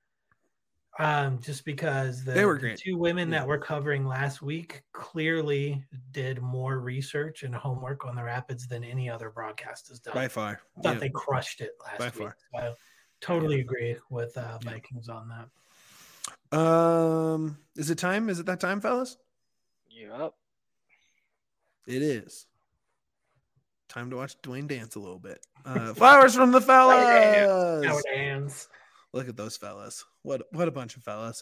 Speaker 3: Just because they were great. The 2 women that were covering last week clearly did more research and homework on the Rapids than any other broadcast has done.
Speaker 1: By far.
Speaker 3: I thought they crushed it last week. Far. So I totally agree with Vikings on
Speaker 1: that. Is it time? Is it that time, fellas?
Speaker 2: Yep.
Speaker 1: It is. Time to watch Dwayne dance a little bit. Flowers from the fellas.
Speaker 3: Our hands.
Speaker 1: Look at those fellas. What a bunch of fellas.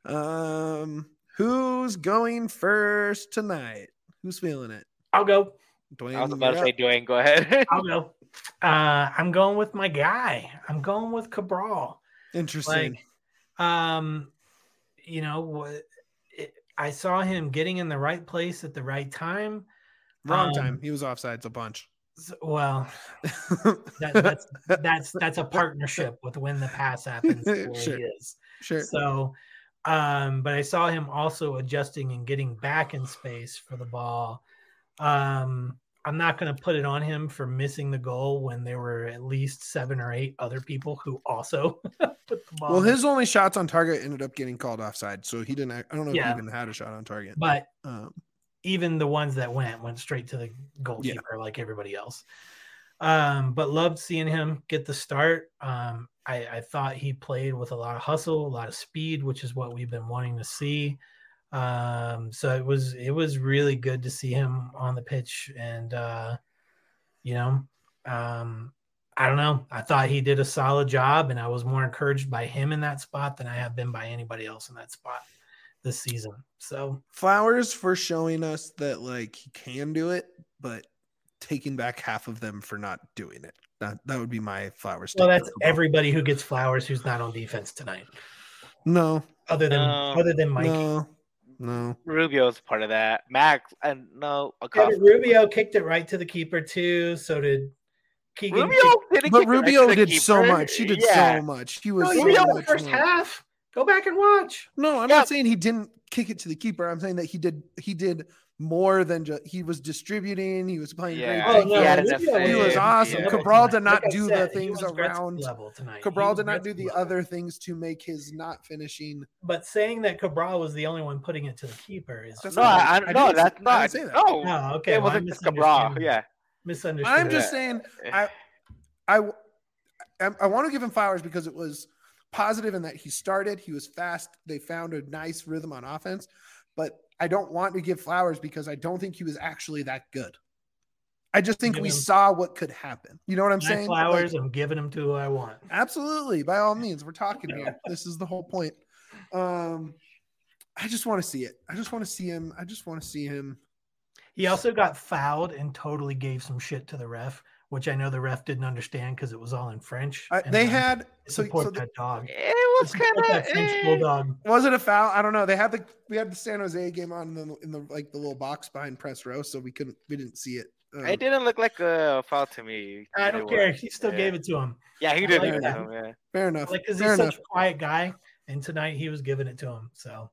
Speaker 1: Who's going first tonight? Who's feeling it?
Speaker 3: I'll go.
Speaker 2: Dwayne, I was about to say Dwayne. Go ahead.
Speaker 3: I'll go. I'm going with my guy. I'm going with Cabral.
Speaker 1: Interesting.
Speaker 3: I saw him getting in the right place at the right time.
Speaker 1: Wrong time. He was offsides a bunch.
Speaker 3: Well, that's a partnership with when the pass happens.
Speaker 1: Sure.
Speaker 3: He is.
Speaker 1: Sure.
Speaker 3: So, but I saw him also adjusting and getting back in space for the ball. I'm not going to put it on him for missing the goal when there were at least 7 or 8 other people who also put the ball.
Speaker 1: Well, his only shots on target ended up getting called offside, so he didn't. I don't know if he even had a shot on target.
Speaker 3: But even the ones that went straight to the goalkeeper like everybody else. But loved seeing him get the start. I thought he played with a lot of hustle, a lot of speed, which is what we've been wanting to see. So it was really good to see him on the pitch. And, I don't know. I thought he did a solid job, and I was more encouraged by him in that spot than I have been by anybody else in that spot this season. So
Speaker 1: flowers for showing us that like he can do it, but taking back half of them for not doing it. That would be my flowers.
Speaker 3: Well, that's everybody who gets flowers who's not on defense tonight.
Speaker 1: No.
Speaker 3: Other than Mike.
Speaker 1: No.
Speaker 2: Rubio's part of that. Max and no,
Speaker 3: Yeah,
Speaker 2: Acosta.
Speaker 3: but Rubio kicked it right to the keeper too. So did Keegan.
Speaker 2: Rubio didn't
Speaker 1: But
Speaker 2: kick it right
Speaker 1: Rubio
Speaker 2: to the
Speaker 1: did so
Speaker 2: keeper.
Speaker 1: much. He did
Speaker 2: Yeah.
Speaker 1: so much. He was
Speaker 3: No,
Speaker 1: so
Speaker 3: he did in the
Speaker 1: much
Speaker 3: first
Speaker 1: more.
Speaker 3: half. Go back and watch.
Speaker 1: No, I'm not saying he didn't kick it to the keeper. I'm saying that he did more than just he was distributing. He was playing
Speaker 2: Yeah,
Speaker 1: great.
Speaker 3: Oh, no,
Speaker 2: he had
Speaker 3: Rubio
Speaker 2: an assist.
Speaker 1: He was awesome.
Speaker 2: Yeah.
Speaker 1: Cabral did not
Speaker 3: Like I
Speaker 1: do
Speaker 3: said,
Speaker 1: the
Speaker 3: he
Speaker 1: things
Speaker 3: was Gretzky
Speaker 1: around.
Speaker 3: level tonight.
Speaker 1: Cabral
Speaker 3: He
Speaker 1: did
Speaker 3: was
Speaker 1: not do
Speaker 3: Gretzky
Speaker 1: the
Speaker 3: level.
Speaker 1: other things to make his not finishing.
Speaker 3: But saying that Cabral was the only one putting it to the keeper is
Speaker 1: That's
Speaker 2: No,
Speaker 1: not-
Speaker 2: I
Speaker 1: I
Speaker 2: no,
Speaker 1: didn't
Speaker 2: that's
Speaker 1: say- I
Speaker 2: not.
Speaker 1: didn't say that.
Speaker 2: No,
Speaker 3: No, okay.
Speaker 2: it
Speaker 3: well,
Speaker 2: wasn't just Cabral.
Speaker 3: misunderstanding.
Speaker 2: Yeah,
Speaker 3: Misunderstood.
Speaker 1: I'm just saying, I want to give him flowers because it was positive in that he started, he was fast, they found a nice rhythm on offense, but I don't want to give flowers because I don't think he was actually that good. I just think
Speaker 3: Give
Speaker 1: we
Speaker 3: him
Speaker 1: saw what could happen. You know what I'm
Speaker 3: my
Speaker 1: saying?
Speaker 3: flowers.
Speaker 1: Like,
Speaker 3: I'm giving them to who I want.
Speaker 1: absolutely, by all means, we're talking here. This is the whole point. I just want to see it. I just want to see him. I just want to see him.
Speaker 3: He also got fouled and totally gave some shit to the ref, which I know the ref didn't understand because it was all in French. And
Speaker 1: They had
Speaker 3: support that dog.
Speaker 2: it was
Speaker 3: Support
Speaker 2: kind
Speaker 3: that French
Speaker 2: of.
Speaker 3: bulldog.
Speaker 1: was it a foul? I don't know. We had the San Jose game on in the like the little box behind press row, so we didn't see it.
Speaker 2: It didn't look like a foul to me.
Speaker 3: I don't care. He still gave it to him.
Speaker 2: Yeah, he did.
Speaker 3: like
Speaker 1: that.
Speaker 2: Yeah.
Speaker 1: Fair enough.
Speaker 3: Like, because
Speaker 1: Fair
Speaker 3: he's
Speaker 1: enough.
Speaker 3: such a quiet guy, and tonight he was giving it to him. So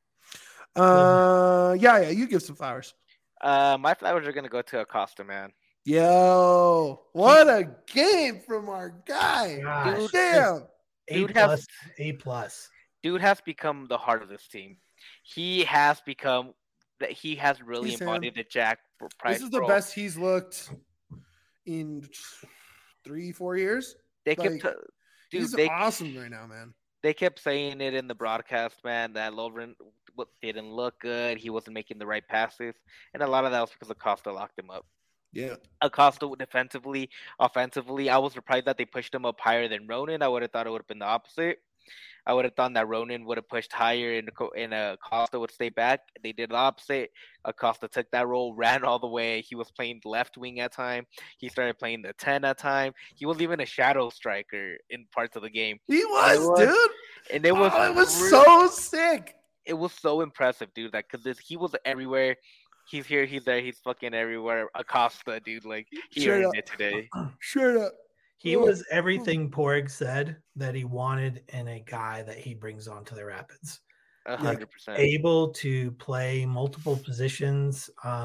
Speaker 1: Yeah, you give some flowers.
Speaker 2: My flowers are gonna go to Acosta, man.
Speaker 1: Yo, what a game from our guy.
Speaker 3: Gosh.
Speaker 1: Dude, damn.
Speaker 2: Dude
Speaker 3: A plus.
Speaker 2: Dude has become the heart of this team. He has become that. He has really
Speaker 1: He's
Speaker 2: embodied the Jack Price.
Speaker 1: This is the
Speaker 2: role.
Speaker 1: best he's looked in 3-4 years.
Speaker 2: They kept,
Speaker 1: like,
Speaker 2: dude.
Speaker 1: He's
Speaker 2: They
Speaker 1: awesome right now, man.
Speaker 2: they kept saying it in the broadcast, man, that Lovren didn't look good. He wasn't making the right passes, and a lot of that was because Acosta locked him up.
Speaker 1: Yeah.
Speaker 2: Acosta defensively, offensively, I was surprised that they pushed him up higher than Ronan. I would have thought it would have been the opposite. I would have thought that Ronan would have pushed higher and Acosta would stay back. They did the opposite. Acosta took that role, ran all the way. He was playing left wing at time. He started playing the 10 at time. He was even a shadow striker in parts of the game.
Speaker 1: He was, dude.
Speaker 2: And it was
Speaker 1: so sick.
Speaker 2: It was so impressive, dude. Like, cause he was everywhere. He's here, he's there, he's fucking everywhere. Acosta, dude, like he
Speaker 1: Straight
Speaker 2: earned
Speaker 1: up.
Speaker 2: it today.
Speaker 1: Straight up.
Speaker 3: He was everything Porg said that he wanted in a guy that he brings onto the Rapids.
Speaker 2: 100%.
Speaker 3: Able to play multiple positions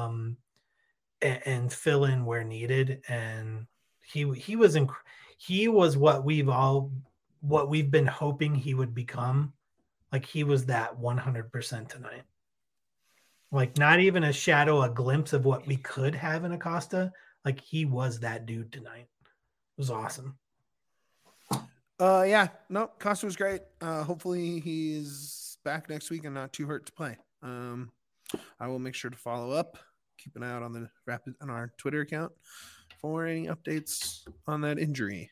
Speaker 3: and fill in where needed. And he was what we've been hoping he would become. Like, he was that 100% tonight. Like, not even a shadow, a glimpse of what we could have in Acosta. Like, he was that dude tonight. It was awesome.
Speaker 1: Yeah, no, Costa was great. Hopefully he's back next week and not too hurt to play. I will make sure to follow up. Keep an eye out on the Rapid on our Twitter account for any updates on that injury.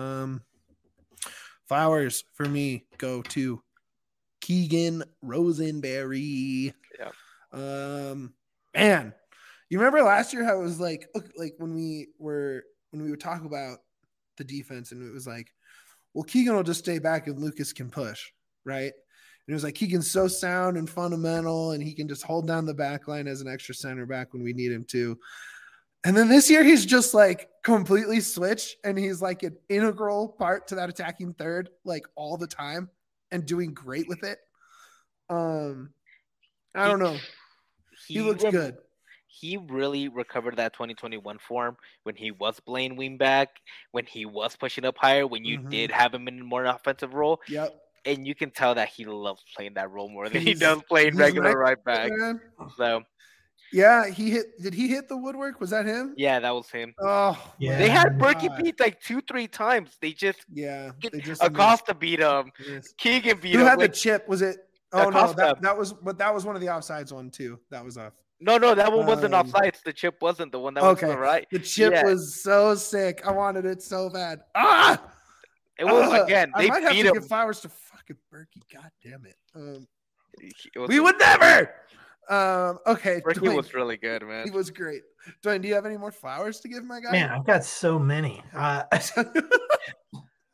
Speaker 1: Flowers for me go to Keegan Rosenberry.
Speaker 2: Yeah.
Speaker 1: Man, you remember last year how it was like when we would talk about the defense and it was like, well, Keegan will just stay back and Lucas can push, right? And it was like Keegan's so sound and fundamental and he can just hold down the back line as an extra center back when we need him to. And then this year he's just like completely switched and he's like an integral part to that attacking third like all the time and doing great with it. I don't know. He looks good.
Speaker 2: He really recovered that 2021 form when he was playing wingback, when he was pushing up higher, when you did have him in a more offensive role.
Speaker 1: Yep.
Speaker 2: And you can tell that he loves playing that role more than he does playing regular right back.
Speaker 1: Man.
Speaker 2: So,
Speaker 1: yeah, did he hit the woodwork? Was that him?
Speaker 2: yeah, that was him.
Speaker 1: Oh,
Speaker 3: Yeah.
Speaker 2: They had Berkey beat like 2-3 times. They just Acosta beat him.
Speaker 1: missed.
Speaker 2: Keegan beat
Speaker 1: Who
Speaker 2: him.
Speaker 1: had the
Speaker 2: Like,
Speaker 1: chip? Was it? Oh
Speaker 2: Acosta.
Speaker 1: no, that was one of the offsides one too. That was off.
Speaker 2: no, that one wasn't offsides. The chip wasn't the one that was to the right.
Speaker 1: The chip
Speaker 2: Yeah.
Speaker 1: was so sick. I wanted it so bad. Ah,
Speaker 2: It was again.
Speaker 1: I
Speaker 2: They
Speaker 1: might have
Speaker 2: beat
Speaker 1: to
Speaker 2: him.
Speaker 1: give flowers to fucking Berkey. God damn it.
Speaker 2: It was
Speaker 1: We would never. Okay.
Speaker 2: Berkey
Speaker 1: Dwayne,
Speaker 2: was really good, man.
Speaker 1: he was great. Dwayne, do you have any more flowers to give my guy?
Speaker 3: Man, I've got so many.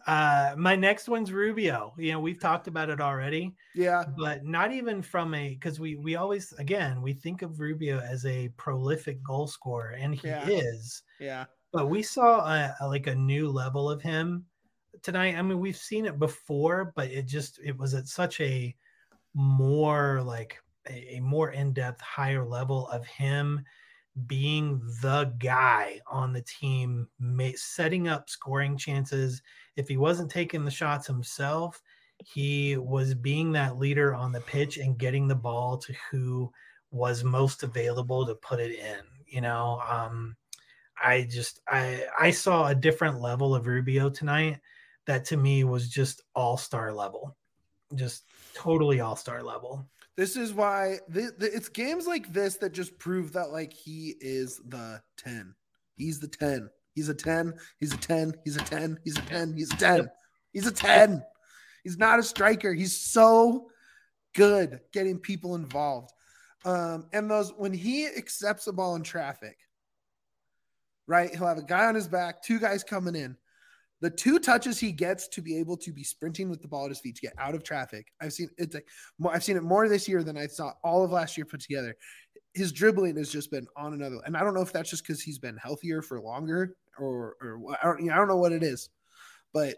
Speaker 3: My next one's Rubio. We've talked about it already.
Speaker 1: Yeah.
Speaker 3: But not even from because we always, again, we think of Rubio as a prolific goal scorer, and he is.
Speaker 1: Yeah.
Speaker 3: But we saw a new level of him tonight. I mean, we've seen it before, but it was at such a more a more in-depth, higher level of him being the guy on the team, setting up scoring chances. If he wasn't taking the shots himself, he was being that leader on the pitch and getting the ball to who was most available to put it in. I saw a different level of Rubio tonight that to me was just all-star level, just totally all-star level.
Speaker 1: This is why it's games like this that just prove that he is the 10. He's the 10. He's a 10. He's a 10. He's a 10. He's a 10. He's a 10. He's a 10. He's not a striker. He's so good getting people involved. And when he accepts a ball in traffic, right, he'll have a guy on his back, two guys coming in. The two touches he gets to be able to be sprinting with the ball at his feet to get out of traffic. I've seen it more this year than I saw all of last year put together. His dribbling has just been on another. And I don't know if that's just because he's been healthier for longer or I don't know what it is, but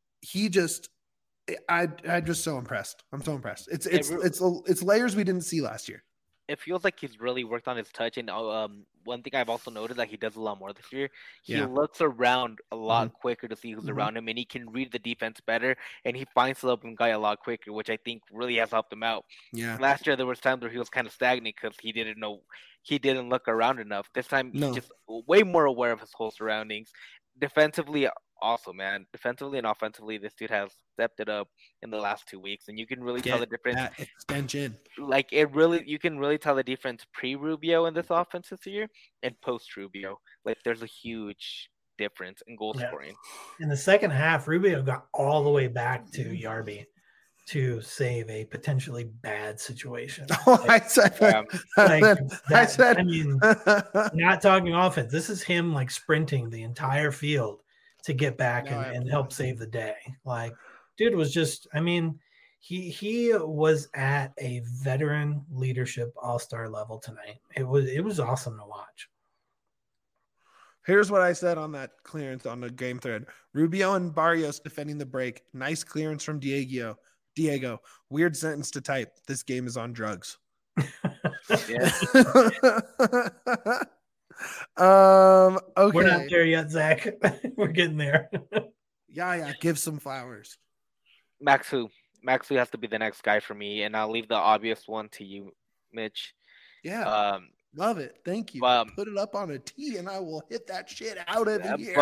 Speaker 1: I'm just so impressed. I'm so impressed. It's layers we didn't see last year.
Speaker 2: It feels like he's really worked on his touch, and one thing I've also noticed that he does a lot more this year. He looks around a lot quicker to see who's around him, and he can read the defense better, and he finds the open guy a lot quicker, which I think really has helped him out.
Speaker 1: Yeah.
Speaker 2: Last year there was times where he was kind of stagnant because he didn't look around enough. This time he's just way more aware of his whole surroundings. Defensively, also, man. Defensively and offensively, this dude has stepped it up in the last 2 weeks, and you can really tell the difference.
Speaker 1: Extension.
Speaker 2: You can really tell the difference pre-Rubio in this offense this year and post-Rubio. There's a huge difference in goal scoring.
Speaker 3: In the second half, Rubio got all the way back to Yarby to save a potentially bad situation.
Speaker 1: I
Speaker 3: mean, not talking offense. This is him sprinting the entire field to get back and help save the day. Dude was just, he was at a veteran leadership all-star level tonight. It was awesome to watch.
Speaker 1: Here's what I said on that clearance on the game thread. Rubio and Barrios defending the break. Nice clearance from Diego. Weird sentence to type. This game is on drugs. Okay.
Speaker 3: We're not there yet, Zach. We're getting there.
Speaker 1: Yeah. Give some flowers.
Speaker 2: Maxu has to be the next guy for me, and I'll leave the obvious one to you, Mitch.
Speaker 1: Yeah. Love it. Thank you. Put it up on a tee, and I will hit that shit out of here.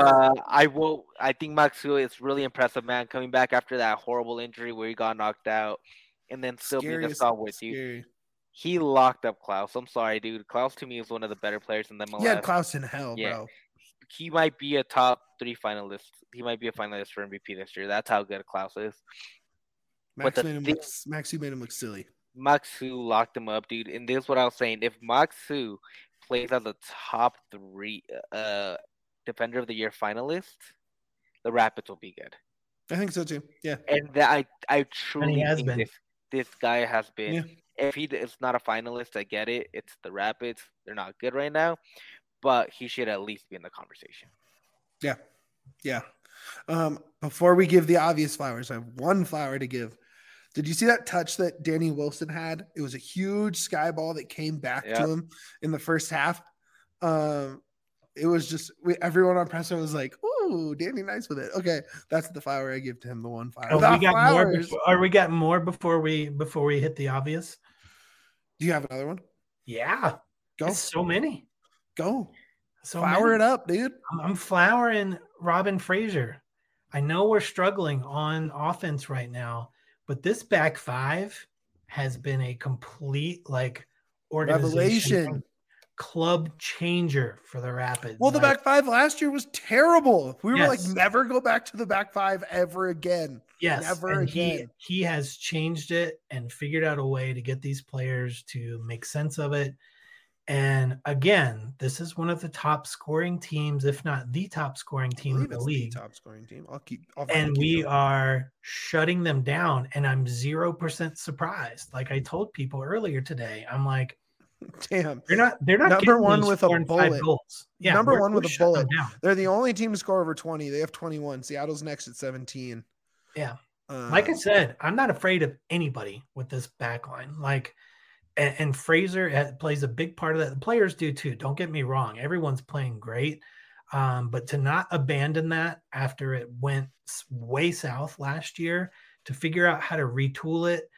Speaker 2: I think Maxu is really impressive, man. Coming back after that horrible injury where he got knocked out, and then still being a stalwart, dude. He locked up Klaus. I'm sorry, dude. Klaus to me is one of the better players in the MLS.
Speaker 1: Yeah, Klaus in hell, bro.
Speaker 2: He might be a top 3 finalist. He might be a finalist for MVP this year. That's how good Klaus is.
Speaker 1: Maxu made him look silly.
Speaker 2: Maxu locked him up, dude. And this is what I was saying. If Maxu plays as a top 3 Defender of the Year finalist, the Rapids will be good.
Speaker 1: I think so too. Yeah.
Speaker 2: And I truly think this guy has been. Yeah. If he is not a finalist, I get it. It's the Rapids. They're not good right now. But he should at least be in the conversation.
Speaker 1: Yeah. Before we give the obvious flowers, I have one flower to give. Did you see that touch that Danny Wilson had? It was a huge sky ball that came back to him in the first half. It was just everyone on presser was like, "Ooh, Danny, nice with it." Okay, that's the flower I give to him. The one flower.
Speaker 3: We got more before we hit the obvious?
Speaker 1: Do you have another one?
Speaker 3: Yeah,
Speaker 1: go.
Speaker 3: It's so many.
Speaker 1: Go. Flower it up, dude.
Speaker 3: I'm flowering Robin Fraser. I know we're struggling on offense right now, but this back five has been a complete
Speaker 1: revelation.
Speaker 3: Club changer for the Rapids.
Speaker 1: Well, the back five last year was terrible. We were never go back to the back five ever again.
Speaker 3: Yes.
Speaker 1: Never again.
Speaker 3: He has changed it and figured out a way to get these players to make sense of it. And again, this is one of the top scoring teams, if not the top scoring team in the league.
Speaker 1: Top scoring team.
Speaker 3: And we are shutting them down. And I'm 0% surprised. Like I told people earlier today, I'm like,
Speaker 1: damn,
Speaker 3: they're not
Speaker 1: number one with a bullet.
Speaker 3: Yeah,
Speaker 1: number one with a bullet. They're the only team to score over 20. They have 21. Seattle's next at 17.
Speaker 3: Yeah. Like I said, I'm not afraid of anybody with this back line. Like, and Fraser plays a big part of that. The players do too. Don't get me wrong. Everyone's playing great. But to not abandon that after it went way south last year, to figure out how to retool it,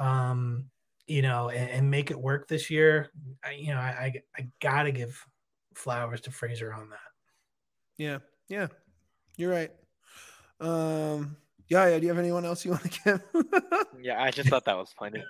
Speaker 3: and make it work this year, I got to give flowers to Fraser on that.
Speaker 1: Yeah. You're right. Yeah. Do you have anyone else you want to give?
Speaker 2: Yeah, I just thought that was funny.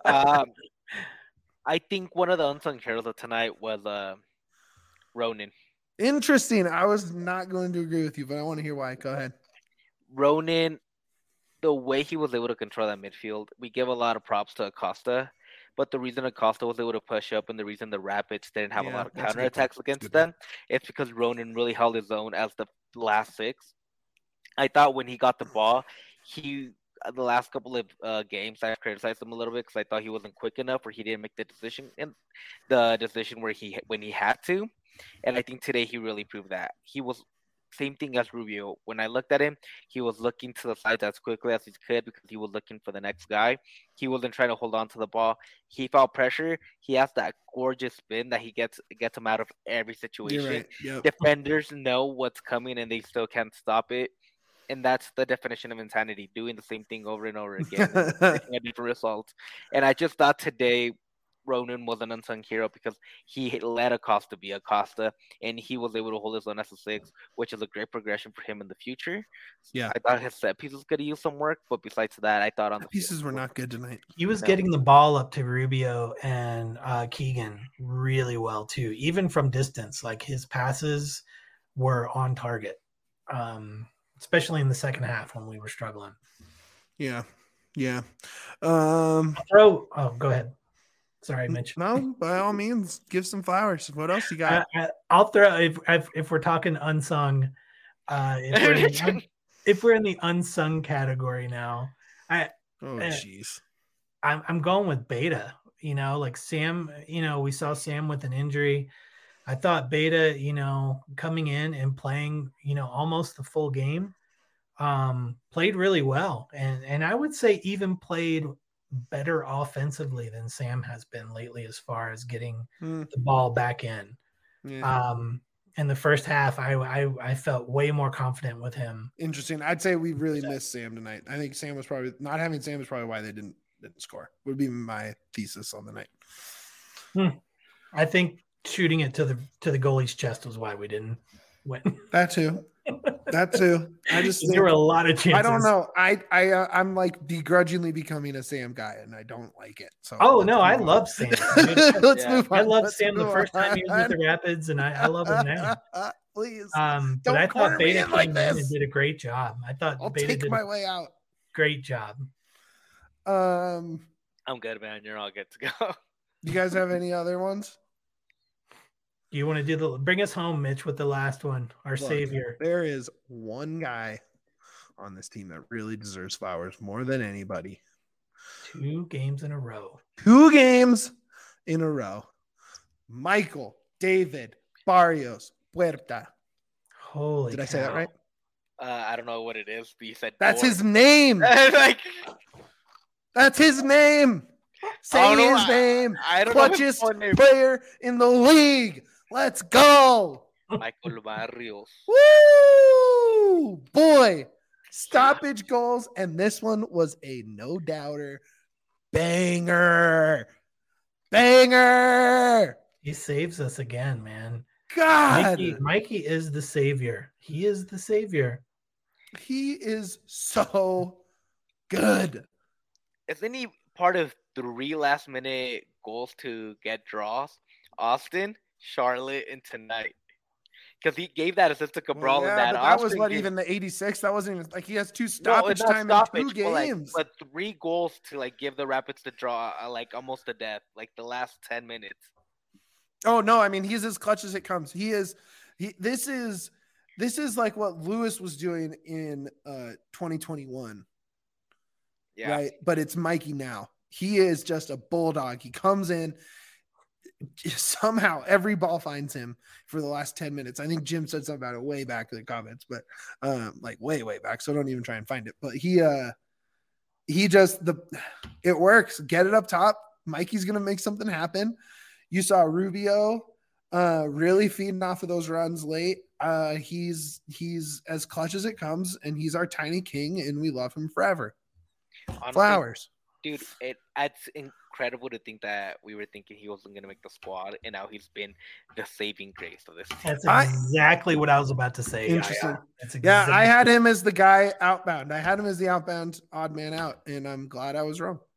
Speaker 2: I think one of the unsung heroes of tonight was Ronan.
Speaker 1: Interesting. I was not going to agree with you, but I want to hear why. Go ahead.
Speaker 2: Ronan, the way he was able to control that midfield, we give a lot of props to Acosta, but the reason Acosta was able to push up and the reason the Rapids didn't have a lot of counterattacks against them, it's because Ronan really held his own as the last six. I thought when he got the ball, the last couple of games, I criticized him a little bit because I thought he wasn't quick enough or he didn't make the decision when he had to. And I think today he really proved that. He was same thing as Rubio. When I looked at him, he was looking to the sides as quickly as he could because he was looking for the next guy. He wasn't trying to hold on to the ball. He felt pressure. He has that gorgeous spin that he gets him out of every situation.
Speaker 1: You're right. Yep.
Speaker 2: Defenders know what's coming and they still can't stop it. And that's the definition of insanity, doing the same thing over and over again, getting a different result. And I just thought today Ronan was an unsung hero because he let Acosta be Acosta, and he was able to hold his own as a six, which is a great progression for him in the future.
Speaker 1: Yeah,
Speaker 2: I thought his set pieces could use some work, but besides that, I thought on the
Speaker 1: pieces were not good tonight.
Speaker 3: He was getting the ball up to Rubio and Keegan really well too, even from distance. Like his passes were on target. Especially in the second half when we were struggling.
Speaker 1: Yeah.
Speaker 3: Go ahead. Sorry, I mentioned.
Speaker 1: No, by all means, give some flowers. What else you got?
Speaker 3: I'll throw if we're talking unsung. If we're in the unsung category now,
Speaker 1: jeez,
Speaker 3: I'm going with Beta. Like Sam. We saw Sam with an injury. I thought Beta, coming in and playing, almost the full game, played really well. And I would say even played better offensively than Sam has been lately as far as getting the ball back in.
Speaker 1: Yeah.
Speaker 3: In the first half, I felt way more confident with him.
Speaker 1: Interesting. I'd say we really missed Sam tonight. I think Sam was probably not having Sam is probably why they didn't score. Would be my thesis on the night.
Speaker 3: I think shooting it to the goalie's chest was why we didn't win.
Speaker 1: That too. I just
Speaker 3: there were a lot of chances.
Speaker 1: I don't know. I'm like begrudgingly becoming a Sam guy, and I don't like it. So
Speaker 3: I love Sam.
Speaker 1: Let's move on.
Speaker 3: I loved Sam the first time he was with the Rapids, and I love him now.
Speaker 1: Please.
Speaker 3: But I thought Beta came in and did a great job. I thought
Speaker 1: I'll
Speaker 3: Beta
Speaker 1: take my way out.
Speaker 3: Great job.
Speaker 2: I'm good, man. You're all good to go.
Speaker 1: You guys have any other ones?
Speaker 3: You want to do bring us home, Mitch, with the last one, our savior.
Speaker 1: There is one guy on this team that really deserves flowers more than anybody.
Speaker 3: 2 games in a row.
Speaker 1: Michael David Barrios Puerta.
Speaker 3: Holy
Speaker 1: Did I say that right?
Speaker 2: I don't know what it is, but you said
Speaker 1: that's his name. That's his name. Say his name.
Speaker 2: I don't
Speaker 1: Clutchest player in the league. Let's go.
Speaker 2: Michael Barrios.
Speaker 1: Woo! Boy, stoppage goals, and this one was a no-doubter. Banger.
Speaker 3: He saves us again, man.
Speaker 1: God.
Speaker 3: Mikey is the savior. He is the savior.
Speaker 1: He is so good.
Speaker 2: Isn't he part of 3 last-minute goals to get draws? Austin, Charlotte, and tonight. Because he gave that assist to Cabral in that.
Speaker 1: But that was even the 86th. That wasn't even like he has 2 stoppage time in 2 games.
Speaker 2: But 3 goals to give the Rapids the draw, almost to death, the last 10 minutes.
Speaker 1: Oh no, I mean he's as clutch as it comes. This is like what Lewis was doing in 2021.
Speaker 2: Yeah.
Speaker 1: Right? But it's Mikey now. He is just a bulldog. He comes in, somehow every ball finds him for the last 10 minutes. I think Jim said something about it way back in the comments, but like way back, so don't even try and find it. But it works. Get it up top. Mikey's gonna make something happen. You saw Rubio really feeding off of those runs late. He's as clutch as it comes, and he's our tiny king, and we love him forever. Honestly, Flowers.
Speaker 2: Dude, it's incredible to think that we were thinking he wasn't going to make the squad, and now he's been the saving grace of this team.
Speaker 3: That's exactly what I was about to say.
Speaker 1: Interesting. I had him as the guy outbound. I had him as the outbound odd man out, and I'm glad I was wrong.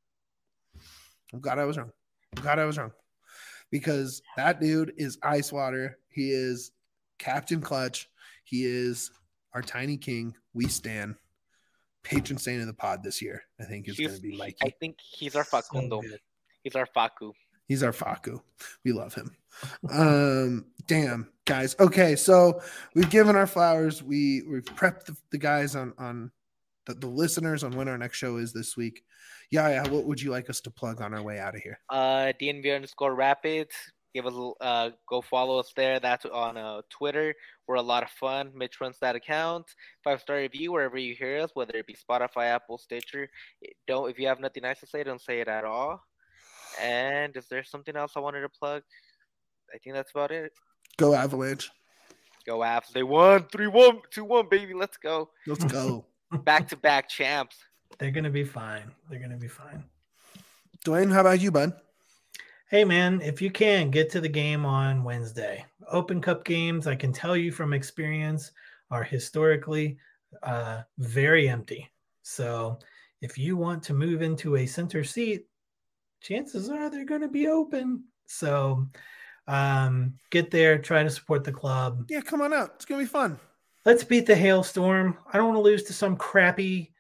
Speaker 1: Because that dude is ice water. He is Captain Clutch. He is our tiny king. We stand. Patron saint of the pod this year, I think, is going to be Mikey.
Speaker 2: I think he's our Facundo. He's our Facu.
Speaker 1: He's our Facu. We love him. Damn, guys. Okay, so we've given our flowers. We've prepped the guys on the listeners on when our next show is this week. Yeah. What would you like us to plug on our way out of here?
Speaker 2: DNV_Rapids. Give us go follow us there. That's on Twitter. We're a lot of fun. Mitch runs that account. 5-star review wherever you hear us, whether it be Spotify, Apple, Stitcher. If you have nothing nice to say, don't say it at all. And is there something else I wanted to plug? I think that's about it.
Speaker 1: Go Avalanche.
Speaker 2: Go Avs. They won 3-1, 2-1, baby. Let's go.
Speaker 1: Let's go.
Speaker 2: Back-to-back champs.
Speaker 3: They're gonna be fine.
Speaker 1: Dwayne, how about you, bud?
Speaker 3: Hey, man, if you can, get to the game on Wednesday. Open Cup games, I can tell you from experience, are historically very empty. So if you want to move into a center seat, chances are they're going to be open. So get there, try to support the club.
Speaker 1: Yeah, come on out. It's going to be fun.
Speaker 3: Let's beat the hailstorm. I don't want to lose to some crappy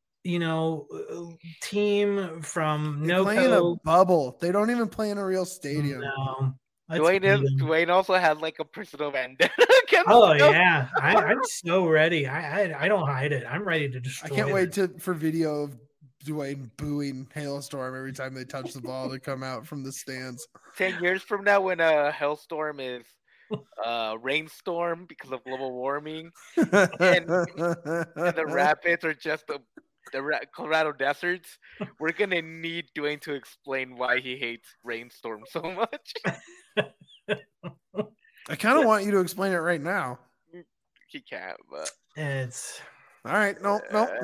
Speaker 3: team from
Speaker 1: they play in a bubble. They don't even play in a real stadium.
Speaker 3: No.
Speaker 2: Dwayne also has like a personal vendetta.
Speaker 3: Yeah, I'm so ready. I don't hide it. I'm ready to destroy.
Speaker 1: I can't wait for video of Dwayne booing Hailstorm every time they touch the ball to come out from the stands.
Speaker 2: 10 years from now, when a Hailstorm is rainstorm because of global warming, and the Rapids are just the Colorado deserts, we're gonna need Dwayne to explain why he hates rainstorm so much.
Speaker 1: I kind of want you to explain it right now.
Speaker 2: He can't, but
Speaker 3: it's
Speaker 1: all right. Nope.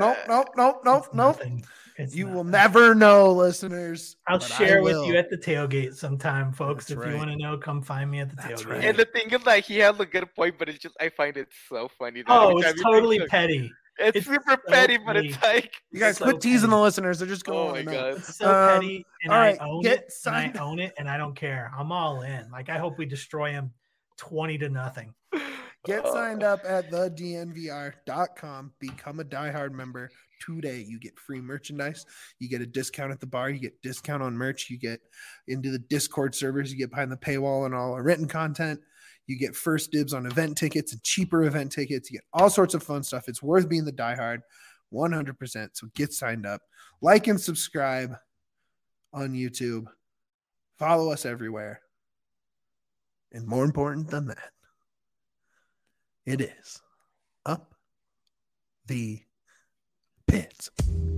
Speaker 1: You will
Speaker 3: nothing.
Speaker 1: never know, listeners.
Speaker 3: I'll share with you at the tailgate sometime, folks. That's if you want to know, come find me at the tailgate. Right.
Speaker 2: And the thing is, like, he has a good point, but it's just I find it so funny.
Speaker 3: It's totally petty.
Speaker 2: It's super petty, but it's like
Speaker 1: you guys quit teasing the listeners. They're just going.
Speaker 2: Oh my god,
Speaker 3: it's so petty, and
Speaker 1: all right,
Speaker 3: I own it. And I own it, and I don't care. I'm all in. Like I hope we destroy him 20-0.
Speaker 1: Get signed up at thednvr.com. Become a diehard member today. You get free merchandise. You get a discount at the bar. You get discount on merch. You get into the Discord servers. You get behind the paywall and all our written content. You get first dibs on event tickets and cheaper event tickets. You get all sorts of fun stuff. It's worth being the diehard 100%. So get signed up. Like and subscribe on YouTube. Follow us everywhere. And more important than that, it is Up the Pits.